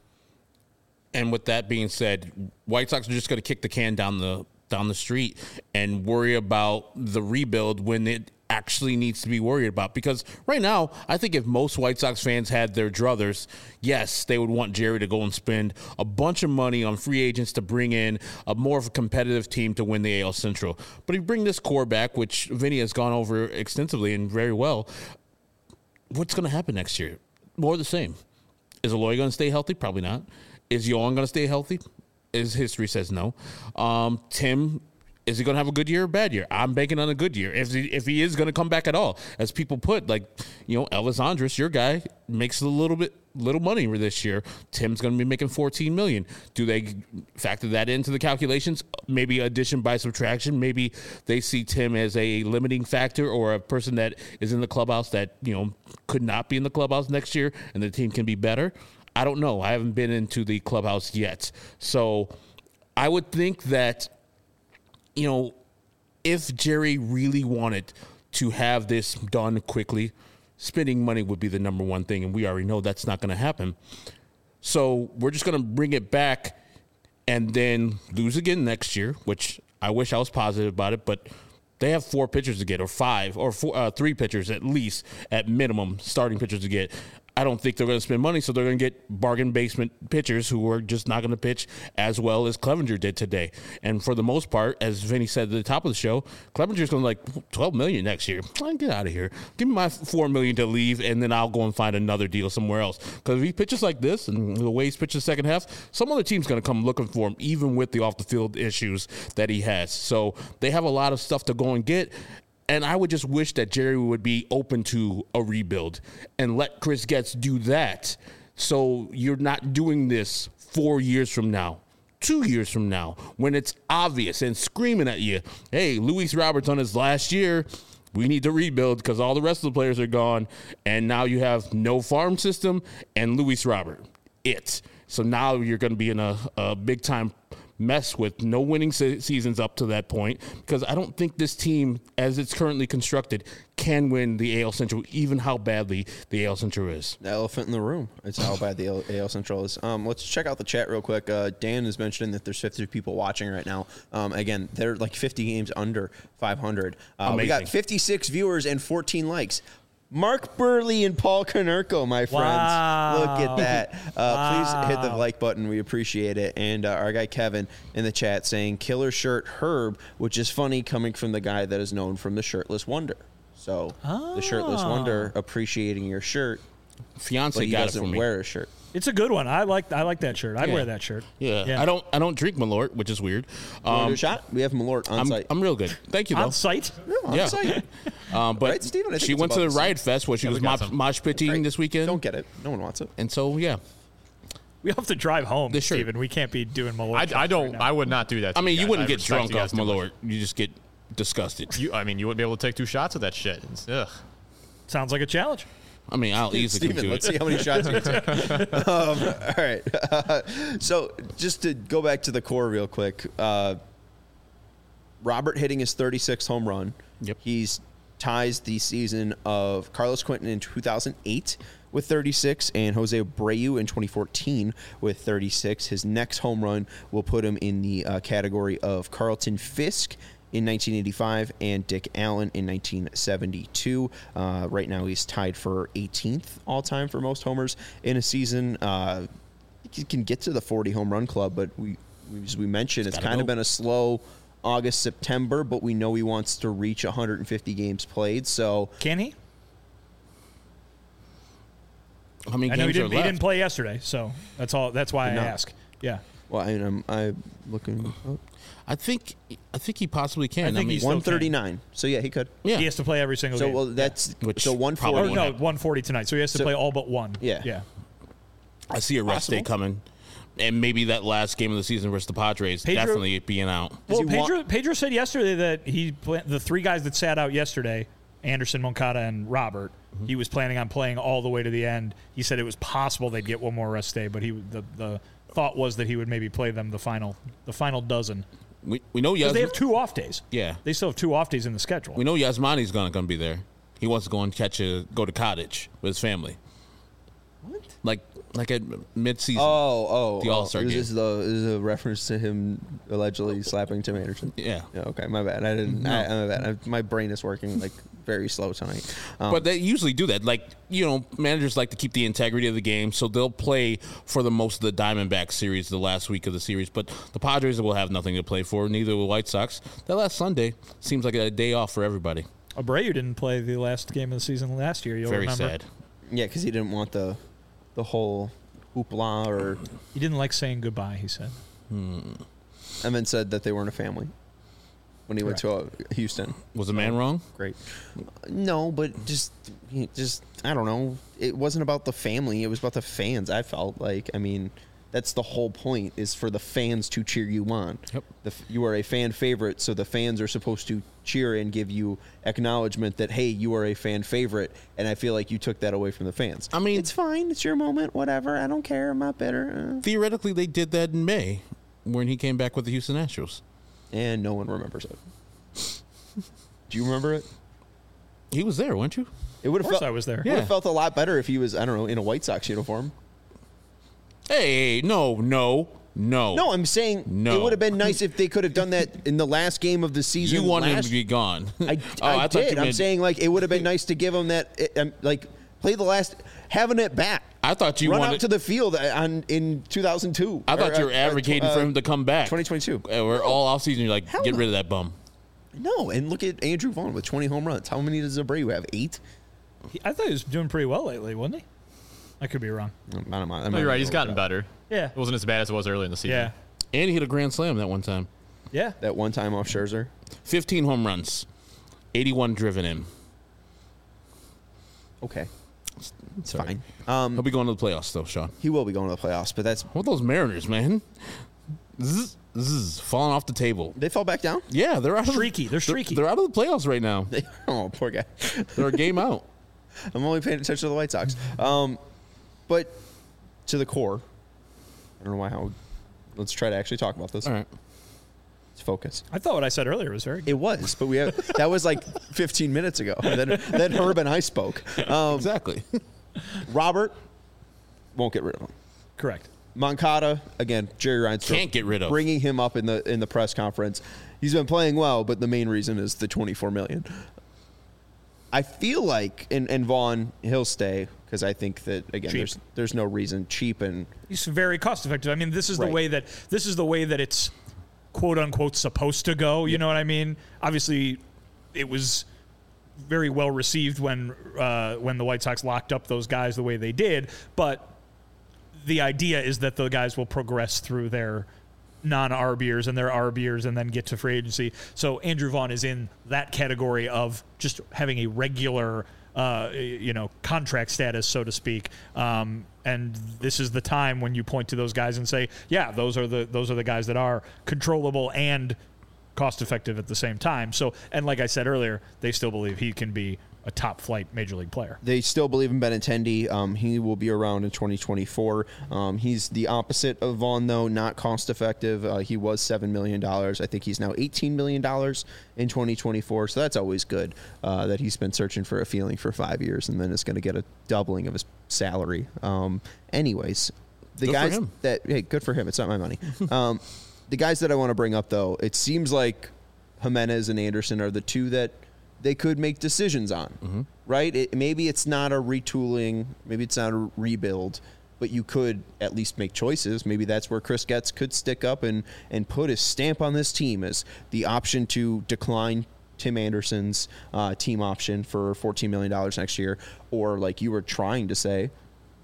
And with that being said, White Sox are just going to kick the can down the down the street and worry about the rebuild when it actually needs to be worried about. Because right now, I think if most White Sox fans had their druthers, yes, they would want Jerry to go and spend a bunch of money on free agents to bring in a more of a competitive team to win the A L Central. But if you bring this core back, which Vinny has gone over extensively and very well, what's going to happen next year? More of the same. Is Eloy going to stay healthy? Probably not. Is Yohan going to stay healthy? His history says no. Um, Tim, is he going to have a good year or a bad year? I'm banking on a good year. If he, if he is going to come back at all, as people put, like, you know, Elvis Andrus, your guy, makes a little bit little money this year. Tim's going to be making fourteen million dollars. Do they factor that into the calculations? Maybe addition by subtraction. Maybe they see Tim as a limiting factor or a person that is in the clubhouse that, you know, could not be in the clubhouse next year and the team can be better. I don't know. I haven't been into the clubhouse yet. So I would think that, you know, if Jerry really wanted to have this done quickly, spending money would be the number one thing, and we already know that's not going to happen. So we're just going to bring it back and then lose again next year, which I wish I was positive about it, but they have four pitchers to get, or five, or four, uh, three pitchers at least, at minimum, starting pitchers to get. I don't think they're going to spend money, so they're going to get bargain basement pitchers who are just not going to pitch as well as Clevenger did today. And for the most part, as Vinny said at the top of the show, Clevenger's going to like twelve million dollars next year. Get out of here. Give me my four million dollars to leave, and then I'll go and find another deal somewhere else. Because if he pitches like this, and the way he's pitched the second half, some other team's going to come looking for him, even with the off-the-field issues that he has. So they have a lot of stuff to go and get. And I would just wish that Jerry would be open to a rebuild and let Chris Getz do that. So you're not doing this four years from now, two years from now, when it's obvious and screaming at you, hey, Luis Roberts on his last year, we need to rebuild because all the rest of the players are gone. And now you have no farm system and Luis Robert. It. So now you're going to be in a, a big time mess with no winning se- seasons up to that point, because I don't think this team, as it's currently constructed, can win the A L Central, even how badly the A L Central is. The elephant in the room. It's how bad the A L Central is. Um, let's check out the chat real quick. Uh, Dan is mentioning that there's fifty people watching right now. Um, again, they're like fifty games under five hundred. Uh, we got fifty-six viewers and fourteen likes. Mark Burley and Paul Konerko, my friends. Wow. Look at that. Uh, Wow. Please hit the like button. We appreciate it. And uh, our guy Kevin in the chat saying, killer shirt Herb, which is funny coming from the guy that is known from the Shirtless Wonder. So oh. the Shirtless Wonder appreciating your shirt. Fiance but he got doesn't it for me. wear a shirt. It's a good one. I like I like that shirt. I'd Yeah. wear that shirt. Yeah. Yeah. I don't I don't drink Malort, which is weird. You want to do Um, a shot? We have Malort on I'm, site. I'm real good. Thank you, though. On site? Yeah, on Yeah. site. Um, but Right, Steven? I think she it's went to about the the same. Riot Fest where she Yeah, was we got mosh, some. mosh pitting Right. this weekend. Don't get it. No one wants it. And so, yeah. We have to drive home, This shirt. Steven. We can't be doing Malort. I, shots I don't. right now. I would not do that. To I mean, you guys. wouldn't I get respect drunk you guys off too much. Malort. You just get disgusted. You, I mean, you wouldn't be able to take two shots of that shit. It's- ugh. Sounds like a challenge. I mean, I'll easily come Steven, to let's it. see how many shots you can take. um, all right. Uh, so just to go back to the core real quick, uh, Robert hitting his thirty-sixth home run. Yep. He's ties the season of Carlos Quentin in two thousand eight with thirty-six and Jose Abreu in twenty fourteen with thirty-six. His next home run will put him in the uh, category of Carlton Fisk in nineteen eighty-five and Dick Allen in nineteen seventy-two. Uh, right now he's tied for eighteenth all-time for most homers in a season. Uh, he can get to the forty home run club, but we, as we mentioned, it's, It's kind gotta of go. been a slow August, September, but we know he wants to reach one hundred fifty games played. So Can he? How many I know he games are didn't. He left? didn't play yesterday, so that's all. That's why I Did not. ask. Yeah. Well, I, I'm, I'm looking. Oh, I think I think he possibly can. I think mean, he's still one thirty-nine. So yeah, he could. yeah. He has to play every single So game. well, that's Which so one probably or forty. won't no, one forty tonight. So he has to So- play all but one. Yeah. Yeah. I see a rest day Possible. coming, and maybe that last game of the season versus the Padres Pedro- definitely being out. Well, he wa- Pedro, Pedro said yesterday that he pla- the three guys that sat out yesterday, Anderson, Moncada, and Robert, Mm-hmm. he was planning on playing all the way to the end. He said it was possible they'd get one more rest day, but he the the thought was that he would maybe play them the final the final dozen. We we know Because Yas- they have two off days. yeah They still have two off days in the schedule. we know Yasmani's gonna gonna be there. He wants to go and catch a go to Cottage with his family. What? Like like at mid season. Oh, oh, The oh. All-Star Is game. this the is this a reference to him allegedly slapping Tim Anderson? Yeah. Yeah, okay, my bad. I didn't. I, my bad. I, my brain is working like very slow tonight. Um, But they usually do that. Like, you know, managers like to keep the integrity of the game, so they'll play for the most of the Diamondback series the last week of the series. But the Padres will have nothing to play for, neither will the White Sox. That last Sunday seems like a day off for everybody. Abreu didn't play the last game of the season last year. You'll Very remember. sad. yeah, because he didn't want the the whole hoopla, or He didn't like saying goodbye. He said. and then said that they weren't a family when he went to uh, Houston. Was the man wrong? Great. No, but just, he just I don't know. It wasn't about the family. It was about the fans. I felt like. I mean, that's the whole point, is for the fans to cheer you on. Yep. The, f- you are a fan favorite, so the fans are supposed to cheer and give you acknowledgement that, hey, you are a fan favorite. And I feel like you took that away from the fans. I mean- it's fine. It's your moment. Whatever. I don't care. I'm not bitter. Uh, Theoretically, they did that in May when he came back with the Houston Astros. and no one remembers it. Do you remember it? He was there, weren't you? It would Of have course felt. I was there. Would Yeah. have felt a lot better if he was, I don't know, in a White Sox uniform. Hey, no, no, no. No, I'm saying No. it would have been nice if they could have done that in the last game of the season. you wanted him last- to be gone. I, Oh, I, thought you did. I'm meant- saying like it would have been nice to give him that, uh, um, like play the last, having it back. I thought you run wanted. out to the field on in two thousand two. I thought Or, you were uh, uh, advocating for him to come back. twenty twenty-two. Uh, We're all off season. You're like, Hell get no. rid of that bum. No, and look at Andrew Vaughn with twenty home runs. How many does Abreu have? Eight. He, I thought he was doing pretty well lately, wasn't he? I could be wrong. I don't know. No, you're right. He's gotten better. Yeah. It wasn't as bad as it was early in the season. Yeah. And he hit a grand slam that one time. Yeah. That one time off Scherzer. fifteen home runs, eighty-one driven in. Okay, it's Sorry. fine. Um, He'll be going to the playoffs, though, Sean. he will be going to the playoffs, but that's What are those Mariners, man? Zzz, zzz, falling off the table. they fell back down. Yeah, they're out of Streaky. They're streaky. They're, they're out of the playoffs right now. Oh, poor guy. They're a game out. I'm only paying attention to the White Sox. Um, but to the core, I don't know why. How? Let's try to actually talk about this. All right. Let's focus. I thought what I said earlier was very good. It was, but we have that was like fifteen minutes ago. Then then Herb and I spoke. Um, Exactly. Robert won't get rid of him. Correct. Moncada again. Jerry Reinsdorf Can't get rid of. bringing him up in the in the press conference. He's been playing well, but the main reason is the twenty-four million. I feel like and and Vaughn he'll stay because I think that again Cheap. there's there's no reason cheap and He's very cost effective. I mean, this is the Right. way that this is the way that it's quote unquote supposed to go. You know what I mean? Obviously, it was very well received when uh, when the White Sox locked up those guys the way they did. But the idea is that the guys will progress through their non-R B ers and their R B ers and then get to free agency. So Andrew Vaughn is in that category of just having a regular, uh, you know, contract status, so to speak. Um, and this is the time when you point to those guys and say, yeah, those are the those are the guys that are controllable and cost effective at the same time. So, and like I said earlier, they still believe he can be a top flight major league player. they still believe in Benintendi. Um, he will be around in twenty twenty-four. Um, he's the opposite of Vaughn, though, not cost effective. Uh, he was seven million dollars. I think he's now eighteen million dollars in twenty twenty-four. So that's always good uh, that he's been searching for a feeling for five years and then is going to get a doubling of his salary. Um, anyways, the Good for guys him. that, hey, good for him. It's not my money. um, the guys that I want to bring up, though, it seems like Jimenez and Anderson are the two that they could make decisions on, Mm-hmm. right? It, maybe it's not a retooling, maybe it's not a rebuild, but you could at least make choices. Maybe that's where Chris Getz could stick up and, and put his stamp on this team as the option to decline Tim Anderson's uh, team option for fourteen million dollars next year, or like you were trying to say,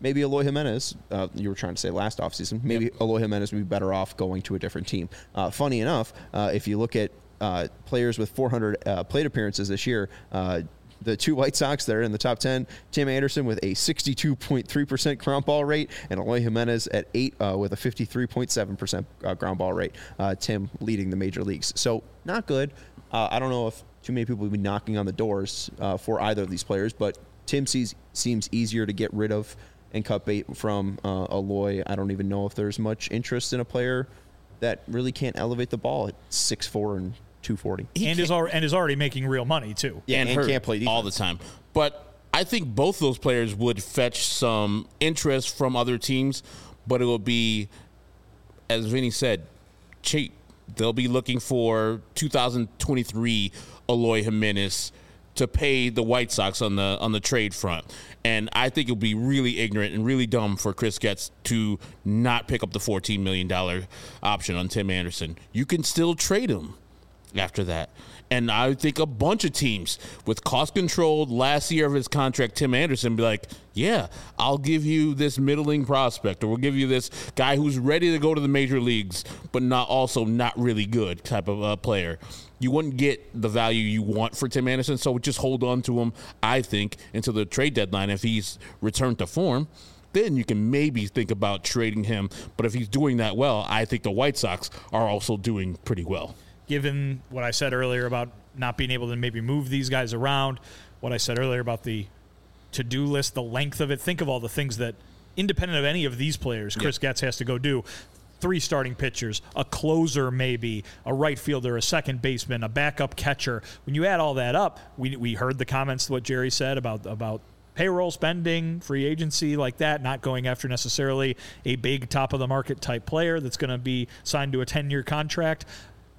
maybe Eloy Jimenez, uh, you were trying to say last offseason, maybe yep. Eloy Jimenez would be better off going to a different team. Uh, funny enough, uh, if you look at uh, players with four hundred uh, plate appearances this year, uh, the two White Sox that are in the top ten, Tim Anderson with a sixty-two point three percent ground ball rate, and Eloy Jimenez at eight uh, with a fifty-three point seven percent uh, ground ball rate. Uh, Tim leading the major leagues. So not good. Uh, I don't know if too many people would be knocking on the doors uh, for either of these players, but Tim sees, seems easier to get rid of and cut bait from uh, Eloy. I don't even know if there's much interest in a player that really can't elevate the ball at six foot four and two forty. He and is, al- and is already making real money, too. Yeah, and, and can't play defense all the time. But I think both those players would fetch some interest from other teams, but it will be, as Vinny said, cheap. They'll be looking for two thousand twenty-three Eloy Jimenez to pay the White Sox on the on the trade front. And I think it would be really ignorant and really dumb for Chris Getz to not pick up the fourteen million dollars option on Tim Anderson. You can still trade him after that. And I think a bunch of teams with cost-controlled last year of his contract, Tim Anderson, be like, yeah, I'll give you this middling prospect, or we'll give you this guy who's ready to go to the major leagues, but not also not really good type of uh, player. You wouldn't get the value you want for Tim Anderson, so just hold on to him, I think, until the trade deadline if he's returned to form. Then you can maybe think about trading him. But if he's doing that well, I think the White Sox are also doing pretty well. Given what I said earlier about not being able to maybe move these guys around, what I said earlier about the to-do list, the length of it, think of all the things that, independent of any of these players, Chris yep. Getz has to go do. Three starting pitchers, a closer maybe, a right fielder, a second baseman, a backup catcher. When you add all that up, we we heard the comments, what Jerry said about about payroll spending, free agency like that, not going after necessarily a big top-of-the-market type player that's going to be signed to a ten-year contract.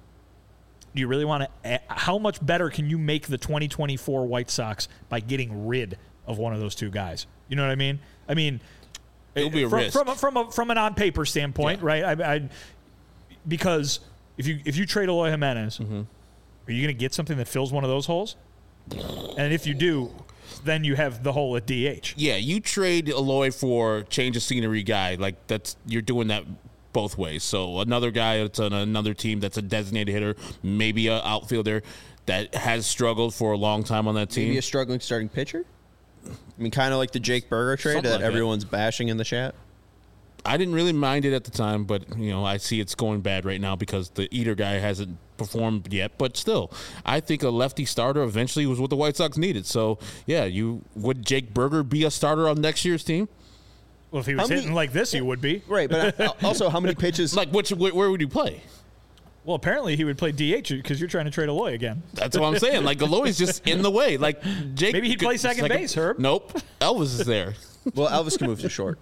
Do you really want to – how much better can you make the twenty twenty-four White Sox by getting rid of one of those two guys? You know what I mean? I mean – It'll be a from, risk. From, a, from, a, from an on-paper standpoint, yeah. right? I, I, because if you if you trade Eloy Jimenez, mm-hmm. are you going to get something that fills one of those holes? And if you do, then you have the hole at D H. Yeah, you trade Eloy for change of scenery guy. Like, that's you're doing that – both ways. So another guy that's on another team that's a designated hitter, maybe an outfielder that has struggled for a long time on that team. Maybe a struggling starting pitcher? I mean, kind of like the Jake Burger trade Something that like everyone's that. bashing in the chat. I didn't really mind it at the time, but, you know, I see it's going bad right now because the Eater guy hasn't performed yet. But still, I think a lefty starter eventually was what the White Sox needed. So, yeah, you would Jake Burger be a starter on next year's team? Well, if he was many, hitting like this, he would be. Right, but also how many pitches? Like, which, where would you play? Well, apparently he would play D H because you're trying to trade Eloy again. That's what I'm saying. Like, Eloy's just in the way. Like, Jake. Maybe he'd play second second, base, Herb. Nope. Elvis is there. Well, Elvis can move to short.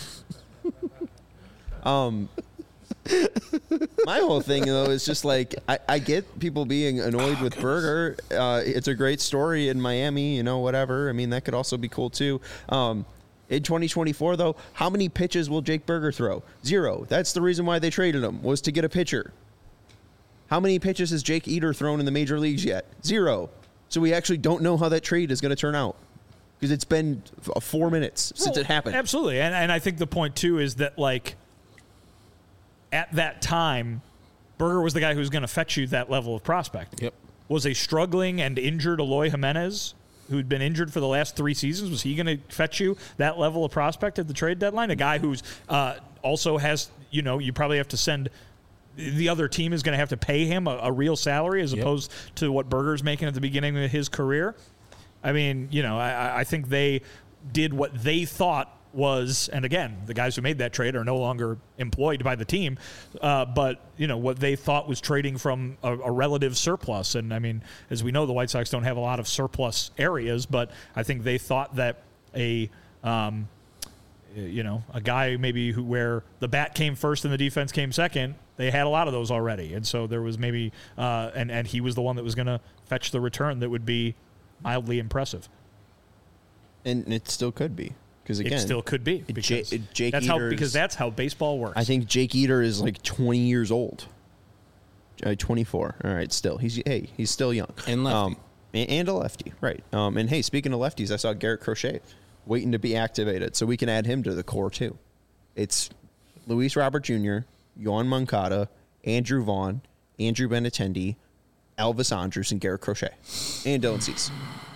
Um, my whole thing, though, is just like, I, I get people being annoyed oh, with gosh. Burger. Uh, it's a great story in Miami, you know, whatever. I mean, that could also be cool, too. Um, In twenty twenty-four, though, how many pitches will Jake Burger throw? Zero. That's the reason why they traded him, was to get a pitcher. How many pitches has Jake Eater thrown in the major leagues yet? Zero. So we actually don't know how that trade is going to turn out because it's been four minutes since well, it happened. Absolutely. And, and I think the point, too, is that, like, at that time, Burger was the guy who was going to fetch you that level of prospect. Yep. Was a struggling and injured Eloy Jimenez, who'd been injured for the last three seasons, was he going to fetch you that level of prospect at the trade deadline? A guy who's uh, also has, you know, you probably have to send – the other team is going to have to pay him a, a real salary as yep. opposed to what Burger's making at the beginning of his career. I mean, you know, I, I think they did what they thought was, and again, the guys who made that trade are no longer employed by the team, uh, but, you know, what they thought was trading from a, a relative surplus. And, I mean, as we know, the White Sox don't have a lot of surplus areas, but I think they thought that a, um, you know, a guy maybe who where the bat came first and the defense came second, they had a lot of those already. And so there was maybe, uh, and, and he was the one that was going to fetch the return that would be mildly impressive. And it still could be. Because again, it still could be. Because J- Jake that's Eater's, how because that's how baseball works. I think Jake Eater is like twenty years old. Uh, twenty-four. All right, still he's hey he's still young and lefty um, and, and a lefty, right? Um, and hey, speaking of lefties, I saw Garrett Crochet waiting to be activated, so we can add him to the core too. It's Luis Robert Junior, Yohan Moncada, Andrew Vaughn, Andrew Benintendi, Elvis Andrus, and Garrett Crochet, and Dylan Cease.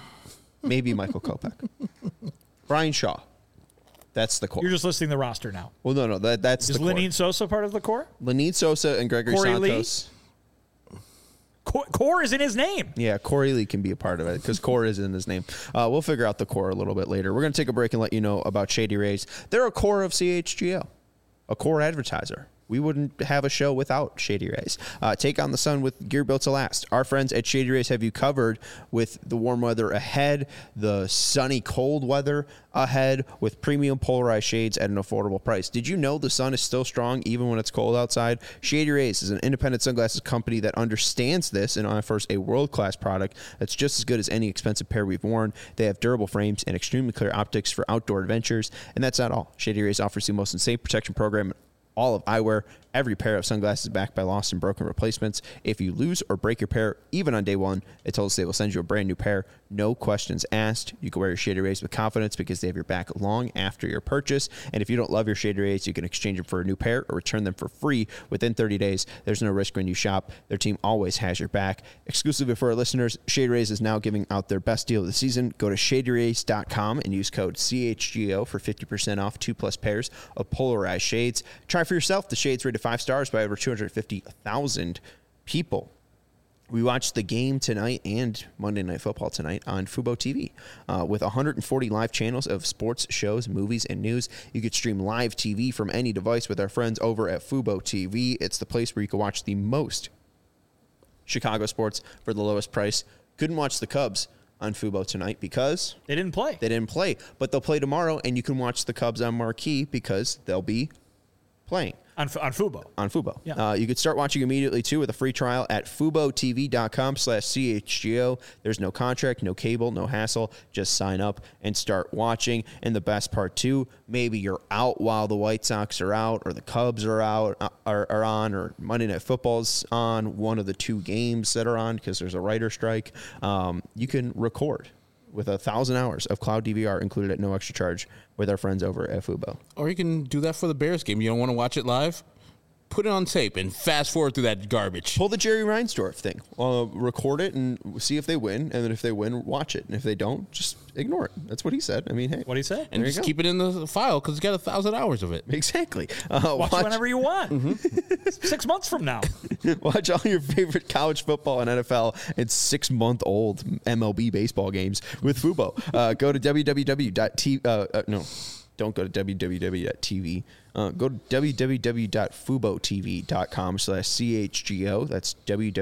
Maybe Michael Kopech. Brian Shaw. That's the core. You're just listing the roster now. Well, no, no, that that's Is the core. Lenine Sosa part of the core? Lenine Sosa and Gregory Corey Santos. Lee? Core, core is in his name. Yeah, Corey Lee can be a part of it because core is in his name. Uh, we'll figure out the core a little bit later. We're going to take a break and let you know about Shady Rays. They're a core of C H G O, a core advertiser. We wouldn't have a show without Shady Rays. Uh, take on the sun with gear built to last. Our friends at Shady Rays have you covered with the warm weather ahead, the sunny cold weather ahead, with premium polarized shades at an affordable price. Did you know the sun is still strong even when it's cold outside? Shady Rays is an independent sunglasses company that understands this and offers a world-class product that's just as good as any expensive pair we've worn. They have durable frames and extremely clear optics for outdoor adventures. And that's not all. Shady Rays offers the most insane protection program all of eyewear. Every pair of sunglasses backed by lost and broken replacements. If you lose or break your pair, even on day one, they told us they will send you a brand new pair. No questions asked. You can wear your Shady Rays with confidence because they have your back long after your purchase. And if you don't love your Shady Rays, you can exchange them for a new pair or return them for free within thirty days. There's no risk when you shop. Their team always has your back. Exclusively for our listeners, Shady Rays is now giving out their best deal of the season. Go to shady rays dot com and use code C H G O for fifty percent off two plus pairs of polarized shades. Try for yourself the shades rated five stars by over two hundred fifty thousand people. We watched the game tonight and Monday Night Football tonight on Fubo T V. Uh, with one hundred forty live channels of sports, shows, movies, and news, you could stream live T V from any device with our friends over at Fubo T V. It's the place where you can watch the most Chicago sports for the lowest price. Couldn't watch the Cubs on Fubo tonight because They didn't play. they didn't play, but they'll play tomorrow, and you can watch the Cubs on Marquee because they'll be playing. On, on Fubo. On Fubo. Yeah. Uh, you could start watching immediately, too, with a free trial at FuboTV.com slash CHGO. There's no contract, no cable, no hassle. Just sign up and start watching. And the best part, too, maybe you're out while the White Sox are out or the Cubs are out, uh, are, are on, or Monday Night Football's on, one of the two games that are on because there's a writer strike. Um, you can record with a thousand hours of cloud D V R included at no extra charge with our friends over at Fubo. Or you can do that for the Bears game. You don't want to watch it live? Put it on tape and fast forward through that garbage. Pull the Jerry Reinsdorf thing. Uh, record it and see if they win. And then if they win, watch it. And if they don't, just ignore it. That's what he said. I mean, hey. What did he say? And There you just go. keep it in the file because it's got a thousand hours of it. Exactly. Uh, Watch, watch, whenever you want. Mm-hmm. Six months from now. watch all your favorite college football and N F L and six-month-old M L B baseball games with Fubo. Uh, go to www.t. Uh, uh, no, don't go to www.tv. Uh, go to www.fubotv.com slash CHGO. That's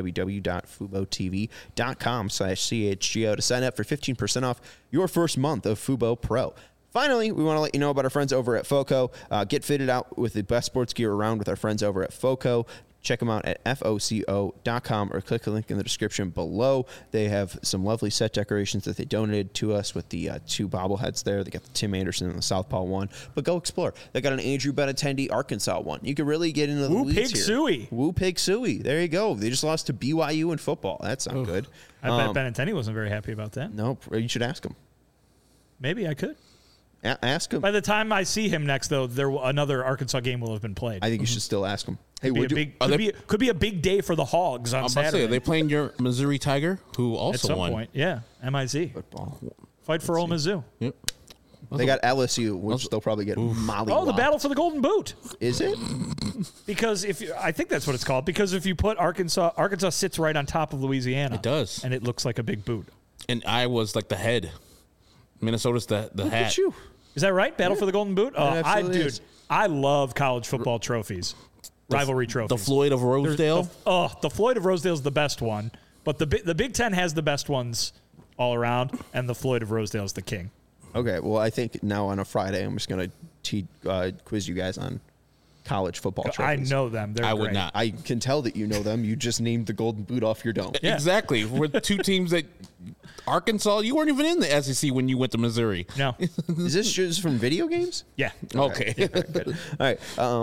www.fubotv.com slash CHGO to sign up for fifteen percent off your first month of Fubo Pro. Finally, we want to let you know about our friends over at FOCO. Uh, get fitted out with the best sports gear around with our friends over at FOCO. Check them out at F O C O dot com or click the link in the description below. They have some lovely set decorations that they donated to us with the uh, two bobbleheads there. They got the Tim Anderson and the Southpaw one. But go explore. They got an Andrew Benintendi Arkansas one. You can really get into the Woo weeds Pig here. Suey. Woo Pig Suey. There you go. They just lost to B Y U in football. That's not good. I Um, bet Benintendi wasn't very happy about that. No, you should ask him. Maybe I could. A- ask him. By the time I see him next, though, there will- another Arkansas game will have been played. I think you should still ask him. Hey, Could be, a would you, big, are could, they- be, could be a big day for the Hogs on I'm about to Saturday. say, are they playing your Missouri Tiger, who At also some won? point, yeah, M I Z. football. Fight for Ole Mizzou. Yep. They got L S U, which they'll probably get molly. Oh, the battle for the Golden Boot. Is it? Because if you, I think that's what it's called. Because if you put Arkansas, Arkansas sits right on top of Louisiana. It does. and it looks like a big boot. And Iowa's like the head. Minnesota's the, the Look hat. at you. Is that right? Battle for the Golden Boot. Oh, I absolutely dude, is. I love college football trophies, rivalry The trophies. Floyd of There's- Rosedale. The, oh, the Floyd of Rosedale is the best one, but the Bi- the Big Ten has the best ones all around, and the Floyd of Rosedale is the king. Okay, well, I think now on a Friday, I'm just going to te- uh, quiz you guys on college football I trophies. know them. They're I would great. not. I can tell that you know them. You just named the Golden Boot off your dome. Yeah. Exactly. We're two teams that Arkansas, you weren't even in the S E C when you went to Missouri. No. Is this just from video games? Yeah. Okay. All right. Um,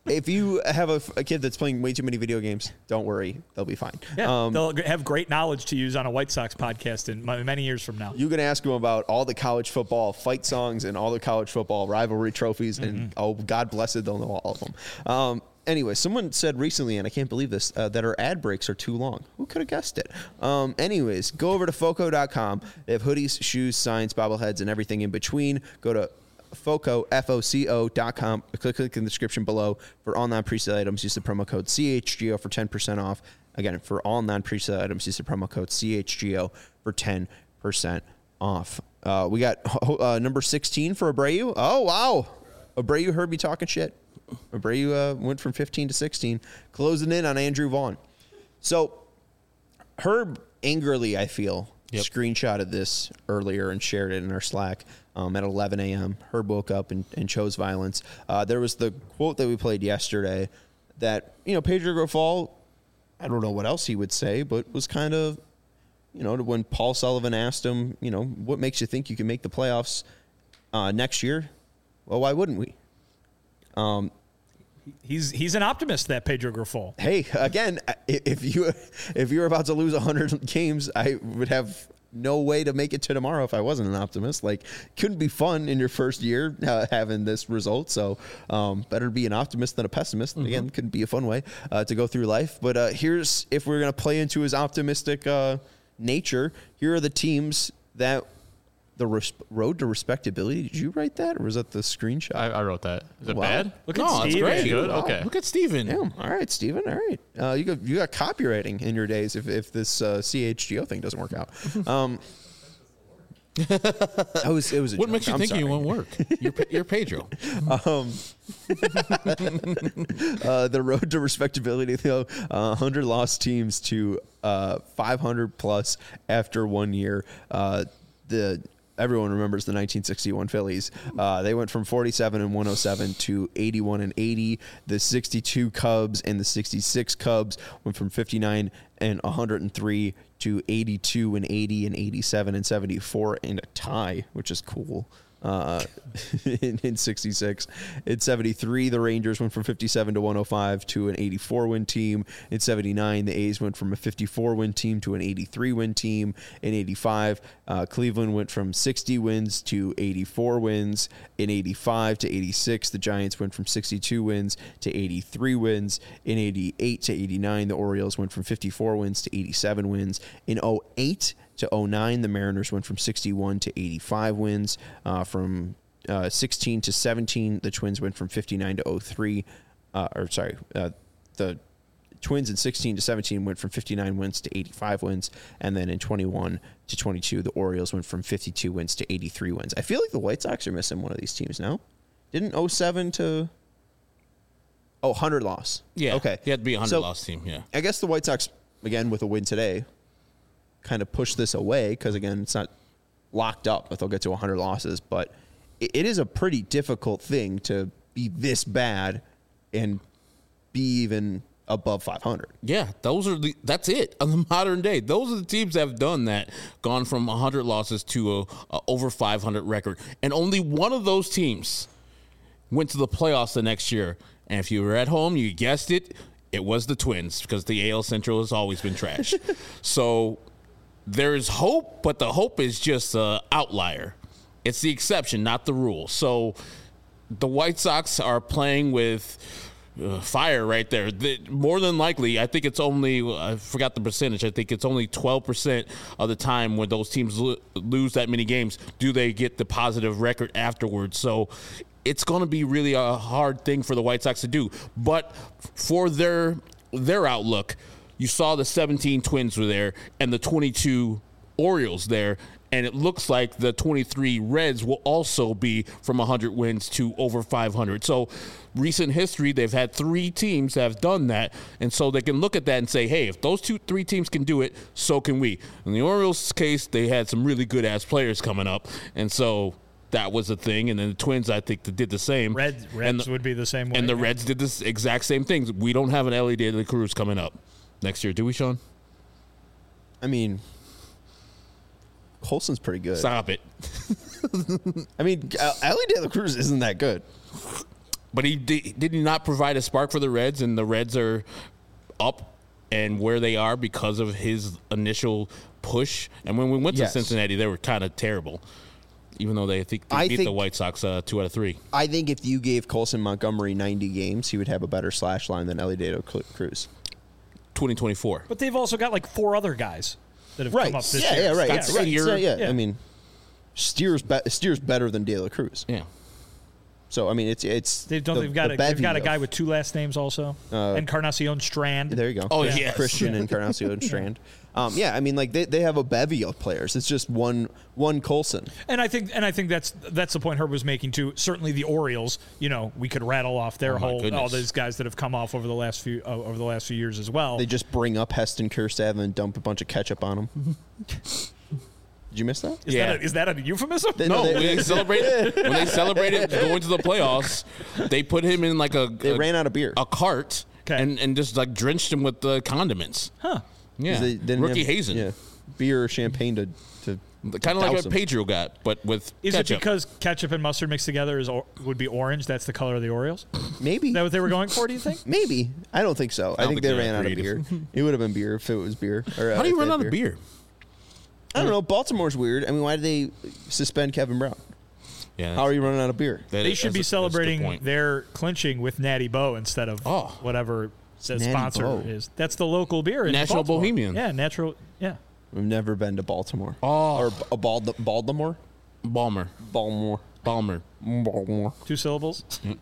if you have a, a kid that's playing way too many video games, don't worry, they'll be fine. Yeah, um, they'll have great knowledge to use on a White Sox podcast in many years from now. You can ask them about all the college football fight songs and all the college football rivalry trophies, Mm-hmm. and oh, God bless it, they'll know all of them. Um, anyway, someone said recently, and I can't believe this, uh, that our ad breaks are too long. Who could have guessed it? Um, anyways, go over to foco dot com. They have hoodies, shoes, signs, bobbleheads, and everything in between. Go to Foco, F O C O dot com. Click, click in the description below for all non-presale items. Use the promo code C H G O for ten percent off. Again, for all non-presale items, use the promo code C H G O for ten percent off. Uh, we got uh, number sixteen for Abreu. Oh, wow. Abreu heard me talking shit. Abreu uh, went from fifteen to sixteen, closing in on Andrew Vaughn. So, Herb angrily, I feel, yep. screenshotted this earlier and shared it in our Slack. Um, at eleven a.m., Herb woke up and, and chose violence. Uh, there was the quote that we played yesterday that, you know, Pedro Grifol, I don't know what else he would say, but was kind of, you know, when Paul Sullivan asked him, you know, what makes you think you can make the playoffs uh, next year? Well, why wouldn't we? Um, he's he's an optimist, that Pedro Grifol. Hey, again, if you if you're about to lose one hundred games, I would have no way to make it to tomorrow if I wasn't an optimist. Like, couldn't be fun in your first year uh, having this result. So um, better be an optimist than a pessimist. Mm-hmm. Again, couldn't be a fun way uh, to go through life. But uh, here's, if we're going to play into his optimistic uh, nature, here are the teams that the res- road to respectability. Did you write that, or was that the screenshot? I, I wrote that. Is it Wow. bad? Look at No, it's Steve. great. Good. Wow. Okay. Look at Steven. Damn. All right, Steven. All right. Uh, you got you got copywriting in your days if, if this uh, C H G O thing doesn't work out. Um, it was, it was a What joke. makes you I'm think sorry. you won't work? You're, Pe- you're Pedro. Um, uh, the road to respectability, though, uh, one hundred lost teams to uh, five hundred plus after one year. Uh, the Everyone remembers the nineteen sixty-one Phillies. Uh, they went from forty-seven and one oh seven to eighty-one and eighty. The sixty-two Cubs and the sixty-six Cubs went from fifty-nine and one hundred three to eighty-two and eighty and eighty-seven and seventy-four in a tie, which is cool. Uh, in, in sixty-six. In seventy-three, the Rangers went from fifty-seven to one oh five to an eighty-four win team. In seventy-nine, the A's went from a fifty-four win team to an eighty-three win team. In eighty-five, uh, Cleveland went from sixty wins to eighty-four wins. In eighty-five to eighty-six, the Giants went from sixty-two wins to eighty-three wins. In eighty-eight to eighty-nine, the Orioles went from fifty-four wins to eighty-seven wins. In oh eight to oh nine, the Mariners went from sixty-one to eighty-five wins. Uh, from uh, sixteen to seventeen, the Twins went from fifty-nine to oh three. Uh, or sorry, uh, the Twins in sixteen to seventeen went from fifty-nine wins to eighty-five wins. And then in twenty-one to twenty-two, the Orioles went from fifty-two wins to eighty-three wins. I feel like the White Sox are missing one of these teams now. Didn't oh seven to... Oh, one hundred loss. Yeah. Okay. He had to be a one hundred So, loss team. Yeah. I guess the White Sox, again, with a win today, kind of push this away because, again, it's not locked up if they'll get to one hundred losses. But it, it is a pretty difficult thing to be this bad and be even above five hundred. Yeah, those are the. That's it on the modern day. Those are the teams that have done that, gone from one hundred losses to a, a over five hundred record, and only one of those teams went to the playoffs the next year. And if you were at home, you guessed it, it was the Twins, because the A L Central has always been trash. So there is hope, but the hope is just an outlier. It's the exception, not the rule. So the White Sox are playing with uh, fire right there. The, more than likely, I think it's only, I forgot the percentage, I think it's only twelve percent of the time when those teams lo- lose that many games do they get the positive record afterwards. So it's going to be really a hard thing for the White Sox to do. But for their their outlook, you saw the seventeen Twins were there and the twenty-two Orioles there, and it looks like the twenty-three Reds will also be from one hundred wins to over five hundred. So recent history, they've had three teams that have done that, and so they can look at that and say, hey, if those two, three teams can do it, so can we. In the Orioles' case, they had some really good-ass players coming up, and so that was a thing. And then the Twins, I think, did the same. Reds, Reds the, would be the same way. And the yeah. Reds did this exact same thing. We don't have an Ellie De La Cruz coming up next year, do we, Sean? I mean, Colson's pretty good. Stop it. I mean, uh, Ellie De La Cruz isn't that good. But he did, did he not provide a spark for the Reds, and the Reds are up and where they are because of his initial push. And when we went to Yes. Cincinnati, they were kind of terrible, even though they, I think they I beat think- the White Sox uh, two out of three. I think if you gave Colson Montgomery ninety games, he would have a better slash line than Ellie De La Cruz. twenty twenty-four. But they've also got like four other guys that have come up this yeah, year. yeah, right. Scott It's- it's- Steer. yeah, Yeah. I mean, Steer's be- Steer's better than De La Cruz. Yeah. So I mean, it's it's They've, don't, the- they've got the a, they've got a bevy guy of- with two last names also. Uh, Encarnacion Strand. There you go. Oh, yes. Christian Encarnacion Strand. Um, yeah, I mean, like they, they have a bevy of players. It's just one one Colson. And I think and I think that's that's the point Herb was making too. Certainly the Orioles, you know, we could rattle off their Oh, my whole goodness. all those guys that have come off over the last few uh, over the last few years as well. They just bring up Heston Kjerstad and dump a bunch of ketchup on him. Did you miss that? is, Yeah. that a, is that a euphemism? They- No, they- when they celebrated when they celebrated going to the playoffs, they put him in like a They a, ran out of beer. a cart Okay. and, and just like drenched him with the condiments. Huh. Yeah, They didn't rookie have- hazing, Yeah, beer or champagne to to kind of like douse what him. Pedro got, but with Is ketchup. it because ketchup and mustard mixed together is or, would be orange? That's the color of the Orioles. Is Maybe. that what they were going for? Do you think? Maybe. I don't think so. I, don't think think they they're ran out of beer. creative. It would have been beer if it was beer. Or, uh, How do you if run they out had of beer? I don't know. Baltimore's weird. I mean, why did they suspend Kevin Brown? Yeah, How are you running out of beer? that- They that's should be a- that's a good celebrating point. their clinching with Natty Bo instead of Oh. whatever the Natty sponsor Bo. is. That's the local beer in Natural Baltimore. Bohemian. Yeah, natural. Yeah. We've never been to Baltimore. Oh. Or a Bald- Baltimore? Balmer, Baltimore. Balmer. Baltimore. Two syllables.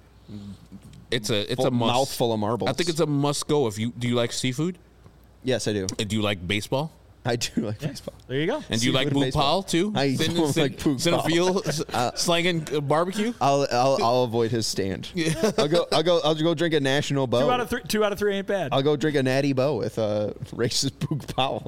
It's a it's Full- a must. mouthful of marbles. I think it's a must go. If you do you like seafood? Yes, I do. And do you like baseball? I do like baseball. There you go. And do you like Seafood and baseball. Boop too? I Cin- don't cin- like Boop Cinephiel Uh, s- slanging uh, barbecue. I'll, I'll I'll avoid his stand. I'll go I'll go I'll go drink a National Bow. Two out of three. Two out of three ain't bad. I'll go drink a Natty Bow with uh, racist Boog Powell.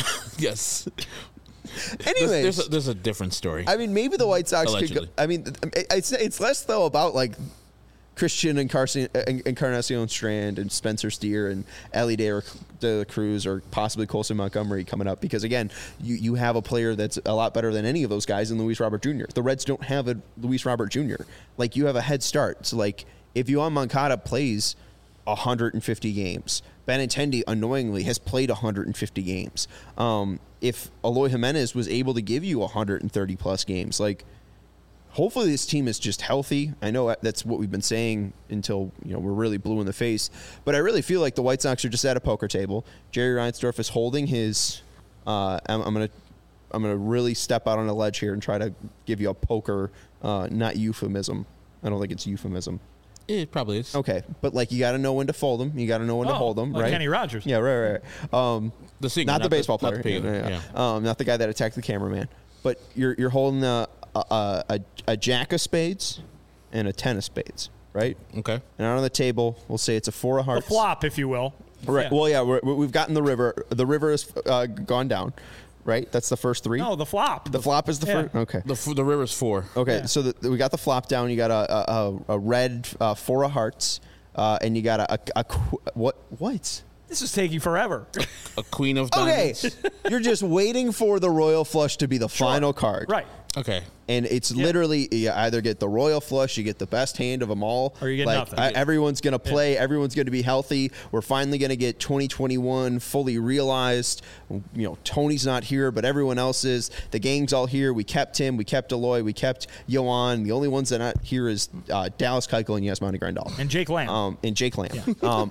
Yes. Anyways, There's, there's, a, there's a different story. I mean, maybe the White Sox could go. Allegedly. I mean, it's it's less though about like Christian Encarnacion, Encarnacion Strand and Spencer Steer and Ellie De La Cruz or possibly Colson Montgomery coming up because again, you you have a player that's a lot better than any of those guys in Luis Robert Junior The Reds don't have a Luis Robert Junior Like you have a head start. So like if Yohan Moncada plays one hundred fifty games. Benintendi, annoyingly, has played one hundred fifty games. Um, if Eloy Jimenez was able to give you one hundred thirty plus games, like hopefully this team is just healthy. I know that's what we've been saying until you know we're really blue in the face, but I really feel like the White Sox are just at a poker table. Jerry Reinsdorf is holding his. Uh, I'm, I'm gonna I'm gonna really step out on a ledge here and try to give you a poker, uh, not euphemism. I don't think it's euphemism. It probably is. Okay, but like you got to know when to fold them. You got to know when to Oh, hold them, like right? Kenny Rogers. Yeah, right, right. right. Um, The singer, not the not the- baseball not the player, player, yeah, yeah. Um, not the guy that attacked the cameraman. But you're you're holding a a, a a jack of spades and a ten of spades, right? Okay. And out on the table, we'll say it's a four of The hearts. flop, if you will. Right. Yeah. Well, yeah, we're, we've gotten the river. The river has uh, gone down, right? That's the first three. No, the flop. the flop is the Yeah. first. Okay. The f- the river's four. Okay, Yeah. so the, we got the flop down. You got a a, a, a red uh, four of hearts, uh, and you got a, a, a qu- what what? This is taking forever. A queen of Okay, diamonds. you're just waiting for the royal flush to be the final card, Right. Okay. And it's literally you either get the royal flush, you get the best hand of them all, Or you get like nothing. I- everyone's gonna play, everyone's gonna be healthy. We're finally gonna get twenty twenty-one fully realized. You know, Tony's not here, but everyone else is. The gang's all here. We kept him. We kept Eloy. We kept Yohan. The only ones that are not here is uh, Dallas Keuchel and Yasmani Grandal. And Jake Lamb. Um, and Jake Lamb. Um,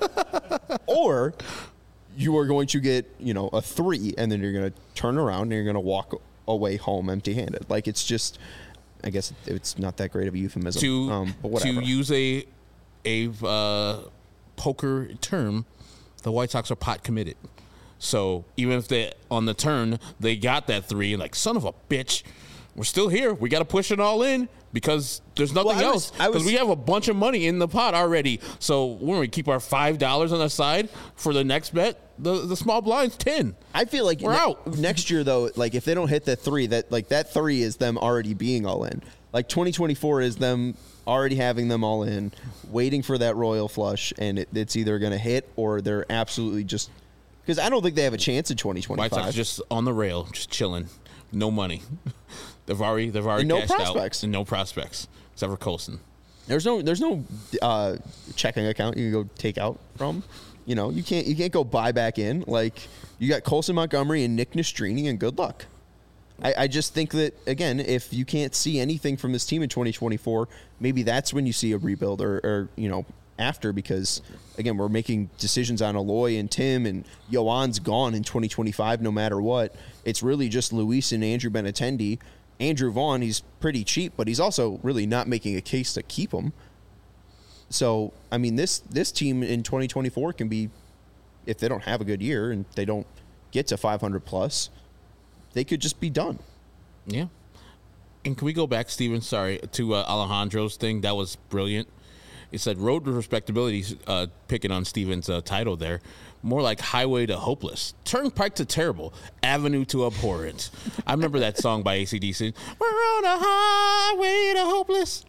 or you are going to get, you know, a three, and then you're going to turn around and you're going to walk away home empty-handed. Like, it's just, I guess it's not that great of a euphemism. To um, but to whatever. use a a uh, poker term, the White Sox are pot committed. So even if they on the turn they got that three, like son of a bitch, we're still here. We got to push it all in because there's nothing Well, I was- else. I Because was- we have a bunch of money in the pot already. So when we keep our five dollars on the side for the next bet, the the small blind's ten. I feel like We're ne- out. next year, though, like if they don't hit that three, that like that three is them already being all in. Like twenty twenty-four is them already having them all in, waiting for that royal flush, and it, it's either going to hit or they're absolutely just because I don't think they have a chance in twenty White Sox twenty-five. just on the rail, just chilling, no money. They've already they've already And no cashed prospects. out and no prospects except for Colson. There's no there's no uh, checking account you can go take out from. You know, you can't you can't go buy back in. Like, you got Colson Montgomery and Nick Nastrini, and good luck. I, I just think that, again, if you can't see anything from this team in twenty twenty-four, maybe that's when you see a rebuild or, or you know, after, because, again, we're making decisions on Aloy and Tim, and Yohan's gone in twenty twenty-five no matter what. It's really just Luis and Andrew Benintendi. Andrew Vaughn, he's pretty cheap, but he's also really not making a case to keep him. So, I mean, this this team in twenty twenty-four can be, if they don't have a good year and they don't get to five hundred plus, they could just be done. Yeah. And can we go back, Steven, sorry, to uh, Alejandro's thing? That was brilliant. It said road to respectability, uh, picking on Steven's uh, title there. More like highway to hopeless. Turnpike to terrible. Avenue to abhorrent. I remember that song by A C D C. We're on a highway to hopeless.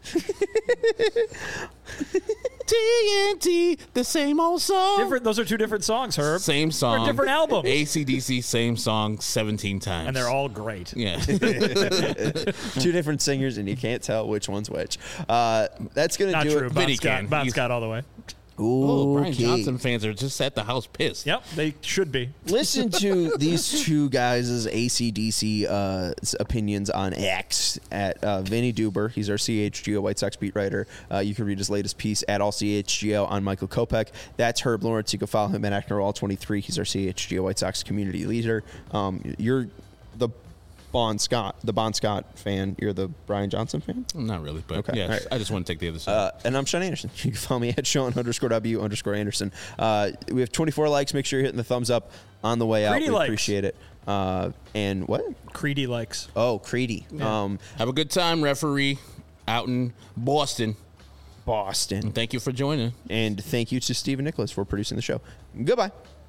T N T, the same old song. Different. Those are two different songs, Herb. Same song. Or different albums. A C D C, same song, seventeen times. And they're all great. Yeah. Two different singers, and you can't tell which one's which. Uh, that's going to Not do true. it. Bon Vinny Scott, can. Bon He's- Scott all the way. Oh, Brian Okay. Johnson fans are just at the house pissed. Yep, they should be. Listen to these two guys' A C D C uh, opinions on X at uh, Vinny Duber. He's our C H G O White Sox beat writer. Uh, you can read his latest piece at All C H G O on Michael Kopech. That's Herb Lawrence. You can follow him at Actor All twenty-three. He's our C H G O White Sox community leader. Um, you're the Bon Scott, the Bon Scott fan. You're the Brian Johnson fan? Not really, but Okay, yeah, all right. I just want to take the other side. Uh, and I'm Sean Anderson. You can follow me at Sean underscore W underscore Anderson. Uh, we have twenty-four likes. Make sure you're hitting the thumbs up on the way out. Creedy we likes. appreciate it. Uh, and what? Creedy likes. Oh, Creedy. Um, Have a good time, referee, out in Boston. Boston. Thank you for joining. And thank you to Stephen Nicholas for producing the show. Goodbye.